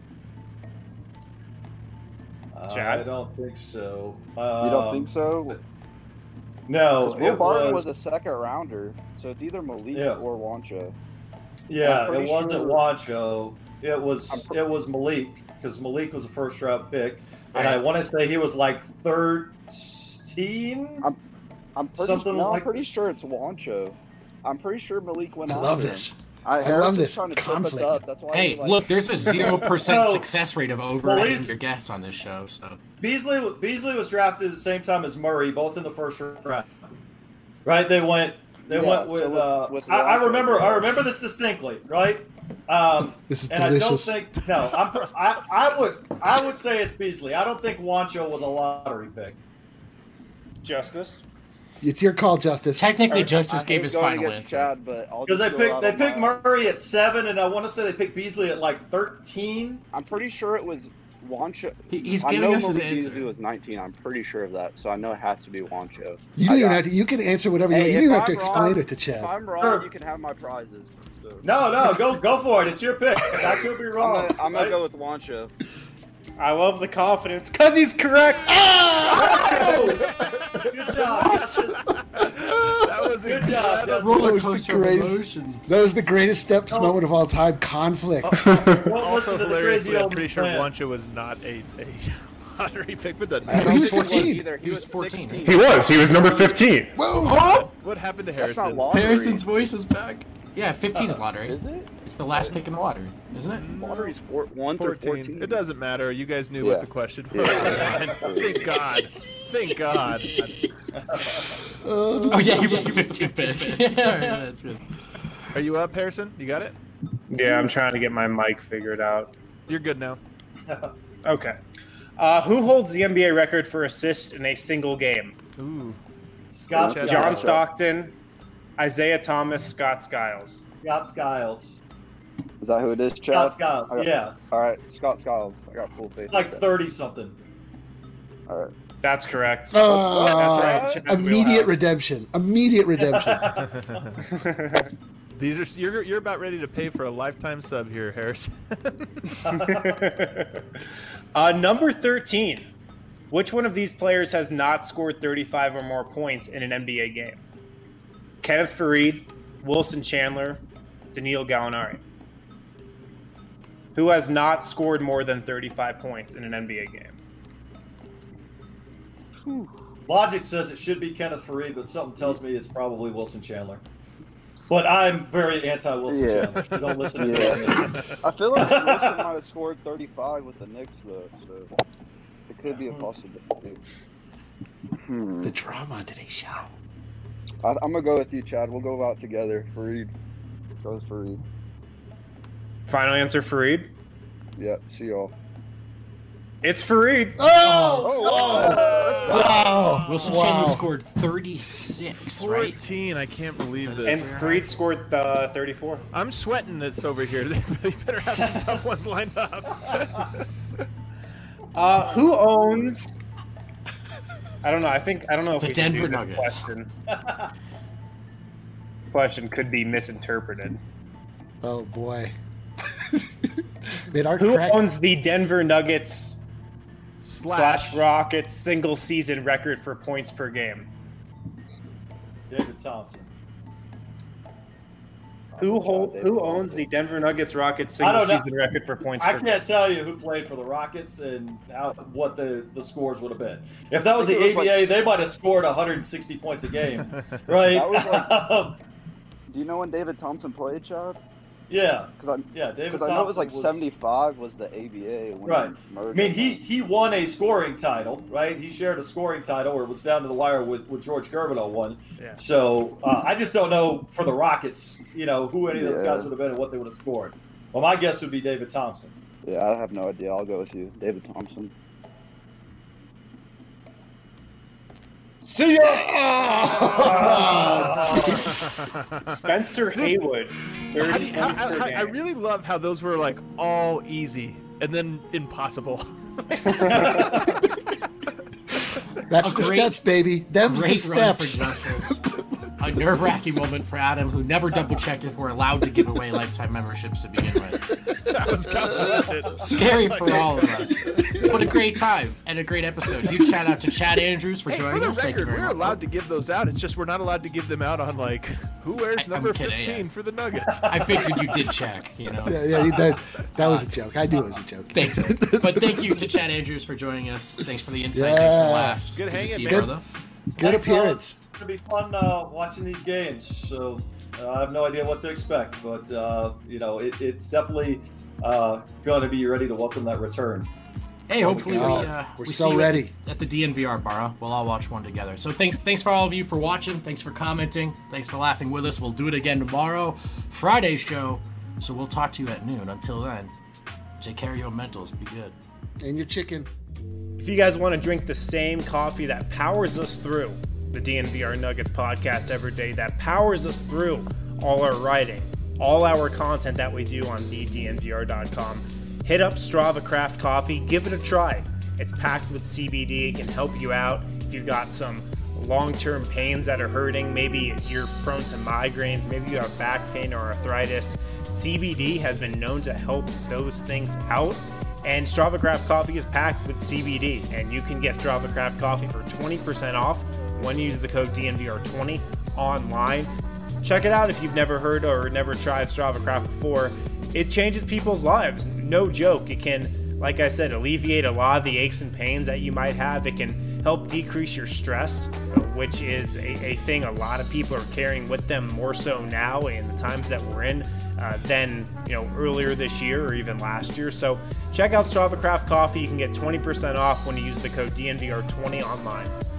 Uh, Chad? I don't think so. Um, You don't think so? No, 'Cause Will it Barton was. was a second rounder, so it's either Malik Yeah. or Juancho. yeah, I'm pretty it wasn't sure- Wancho. It was. I'm pr- It was Malik because Malik was a first round pick, and I Alright. want to say he was like thirteen. I'm- I'm pretty, Something no, like- I'm pretty sure it's Juancho. I'm pretty sure Malik went I after love him. this. I, love Harrison's this trying to trip conflict. us up. That's why Hey, he, like, look, there's a zero percent No. success rate of Well, overriding he's- your guess on this show. So Beasley Beasley was drafted at the same time as Murray, both in the first round. Right? They went. They Yeah, went so with. with- uh, with I, I Wancho. remember. I remember this distinctly. Right? Um, This is and delicious. I don't think. No, I'm. pr- I, I would. I would say it's Beasley. I don't think Wancho was a lottery pick. Justice. It's your call, Justice. technically, I Justice I gave hate his going final against answer. Chad, but I'll Because just they go picked. out They on picked my- Murray at seven, and I want to say they picked Beasley at like thirteen. I'm pretty sure it was Juancho. He- He's I giving know us his Malik Beasley answer. was nineteen. I'm pretty sure of that, so I know it has to be Juancho. You I don't even got- have to. You can answer whatever you Hey, want. You if don't even have to I'm explain wrong- it to If Chad. I'm wrong, Sure. you can have my prizes. So. No, no, go go for it. It's your pick. I could be I'm wrong. gonna, I'm gonna right? go with Juancho. I love the confidence because he's correct. Good job. Justice. That was Good job. Justice. Roller That was the coaster of greatest- emotions. That was the greatest steps No. moment of all time. Conflict. Won't listen also to the hilariously. crazy I'm old pretty sure man. Wancho was not a, a lottery pick, but doesn't I matter. don't He was think it fourteen. either. He was fourteen. sixteen. He was. He was number fifteen. Whoa! What happened to That's not Harrison? lottery. Harrison's voice is back. Yeah, fifteen is lottery. Is it? It's the last pick in the lottery, isn't it? Lottery's four, one through fourteen. fourteen. It doesn't matter. You guys knew Yeah. what the question was. Thank God. Thank God. Oh yeah, he was the fifteenth pick. yeah, that's good. Are you up, Harrison? You got it? Yeah, I'm trying to get my mic figured out. You're good now. Okay. Uh, who holds the N B A record for assists in a single game? Ooh. Scott John John Skiles. Stockton, Isaiah Thomas, Scott Skiles. Scott Skiles. Is that who it is, Chad? Scott Skiles. I got- Yeah, All right, Scott Skiles. I got full faith. like in that. thirty something. All right. That's correct. Oh, That's right. Chad's immediate wheelhouse. redemption. Immediate redemption. These are you're you're about ready to pay for a lifetime sub here, Harrison. uh, number thirteen. Which one of these players has not scored thirty-five or more points in an N B A game? Kenneth Faried, Wilson Chandler, Danilo Gallinari. Who has not scored more than thirty-five points in an N B A game? Whew. Logic says it should be Kenneth Faried, but something tells me it's probably Wilson Chandler. But I'm very anti-Wilson Yeah. Chandler. So don't listen to me. Yeah. I feel like Wilson might have scored thirty-five with the Knicks, though, so it could be a possibility. Hmm. The drama on today's show. I, I'm going to go with you, Chad. We'll go out together. Fareed. Go with Fareed. Final answer, Faried. Yep, see y'all. It's Faried. Oh! Oh, wow. Wow! Wilson Wow. Chandler scored thirty-six, right? fourteen. I can't believe this. And Faried scored uh, thirty-four. I'm sweating this over here. They better have some tough ones lined up. Uh, who owns? I don't know. I think I don't know if The we can Denver do this Nuggets. Question. question could be misinterpreted. Oh boy. Made our Who correct. owns the Denver Nuggets Slash. slash Rockets single season record for points per game? David Thompson. Who Oh, hold, God, Who David owns the Thompson. Denver Nuggets Rockets I single don't know. season record for points I per game? can't tell you who played for the Rockets and how what the, the scores would have been. If that was the I think it was A B A, like- they might have scored one hundred sixty points a game, right? That was like- Um, Do you know when David Thompson played, Chad? yeah, Because I, yeah. David Because I know it was like Thompson seventy-five was the A B A. When Right. he murdered I mean, he, him. he won a scoring title, right? He shared a scoring title, or it was down to the wire with, with George Gervin on one. Yeah. So uh, I just don't know for the Rockets, you know, who any of those Yeah. guys would have been and what they would have scored. Well, my guess would be David Thompson. Yeah, I have no idea. I'll go with you, David Thompson. See ya! Spencer Haywood, thirty I, points per I, I, game. I really love how those were like all easy and then impossible. That's A the great- steps, baby. Them's the Great run for steps. Justice. A nerve-wracking moment for Adam, who never double-checked if we're allowed to give away lifetime memberships to begin with. That was kind of Scary for all of us. But a great time and a great episode. Huge shout out to Chad Andrews for Hey, joining for the us. Thank you record, very we're much. allowed to give those out. It's just we're not allowed to give them out on like who wears I- I'm number kidding, fifteen yeah. for the Nuggets. I figured you did check, you know. Yeah, yeah, that, that was a joke. I knew it was a joke. Thanks. But thank you to Chad Andrews for joining us. Thanks for the insight. Thanks for Yeah. the laughs. Good to hanging, see you, man. brother. Good Thanks, appearance. fellas. It's gonna be fun uh, watching these games. So uh, I have no idea what to expect, but uh, you know, it, it's definitely uh, going to be ready to welcome that return. Hey, hopefully we, God. uh, We're we so see you at ready. the, at the D N V R bar. Huh? We'll all watch one together. So thanks, thanks for all of you for watching. Thanks for commenting. Thanks for laughing with us. We'll do it again tomorrow, Friday's show. So we'll talk to you at noon. Until then, take care of your mentals. Be good. And your chicken. If you guys want to drink the same coffee that powers us through the D N V R Nuggets podcast every day, that powers us through all our writing, all our content that we do on the D N V R dot com, hit up Strava Craft Coffee. Give it a try. It's packed with C B D. It can help you out if you've got some long-term pains that are hurting. Maybe you're prone to migraines. Maybe you have back pain or arthritis. C B D has been known to help those things out. And Strava Craft Coffee is packed with C B D, and you can get Strava Craft Coffee for twenty percent off when you use the code D N V R twenty online. Check it out if you've never heard or never tried Strava Craft before. It changes people's lives. No joke. It can, like I said, alleviate a lot of the aches and pains that you might have. It can help decrease your stress, which is a, a thing a lot of people are carrying with them more so now in the times that we're in uh, than you know earlier this year or even last year. So check out Strava Craft Coffee. You can get twenty percent off when you use the code D N V R twenty online.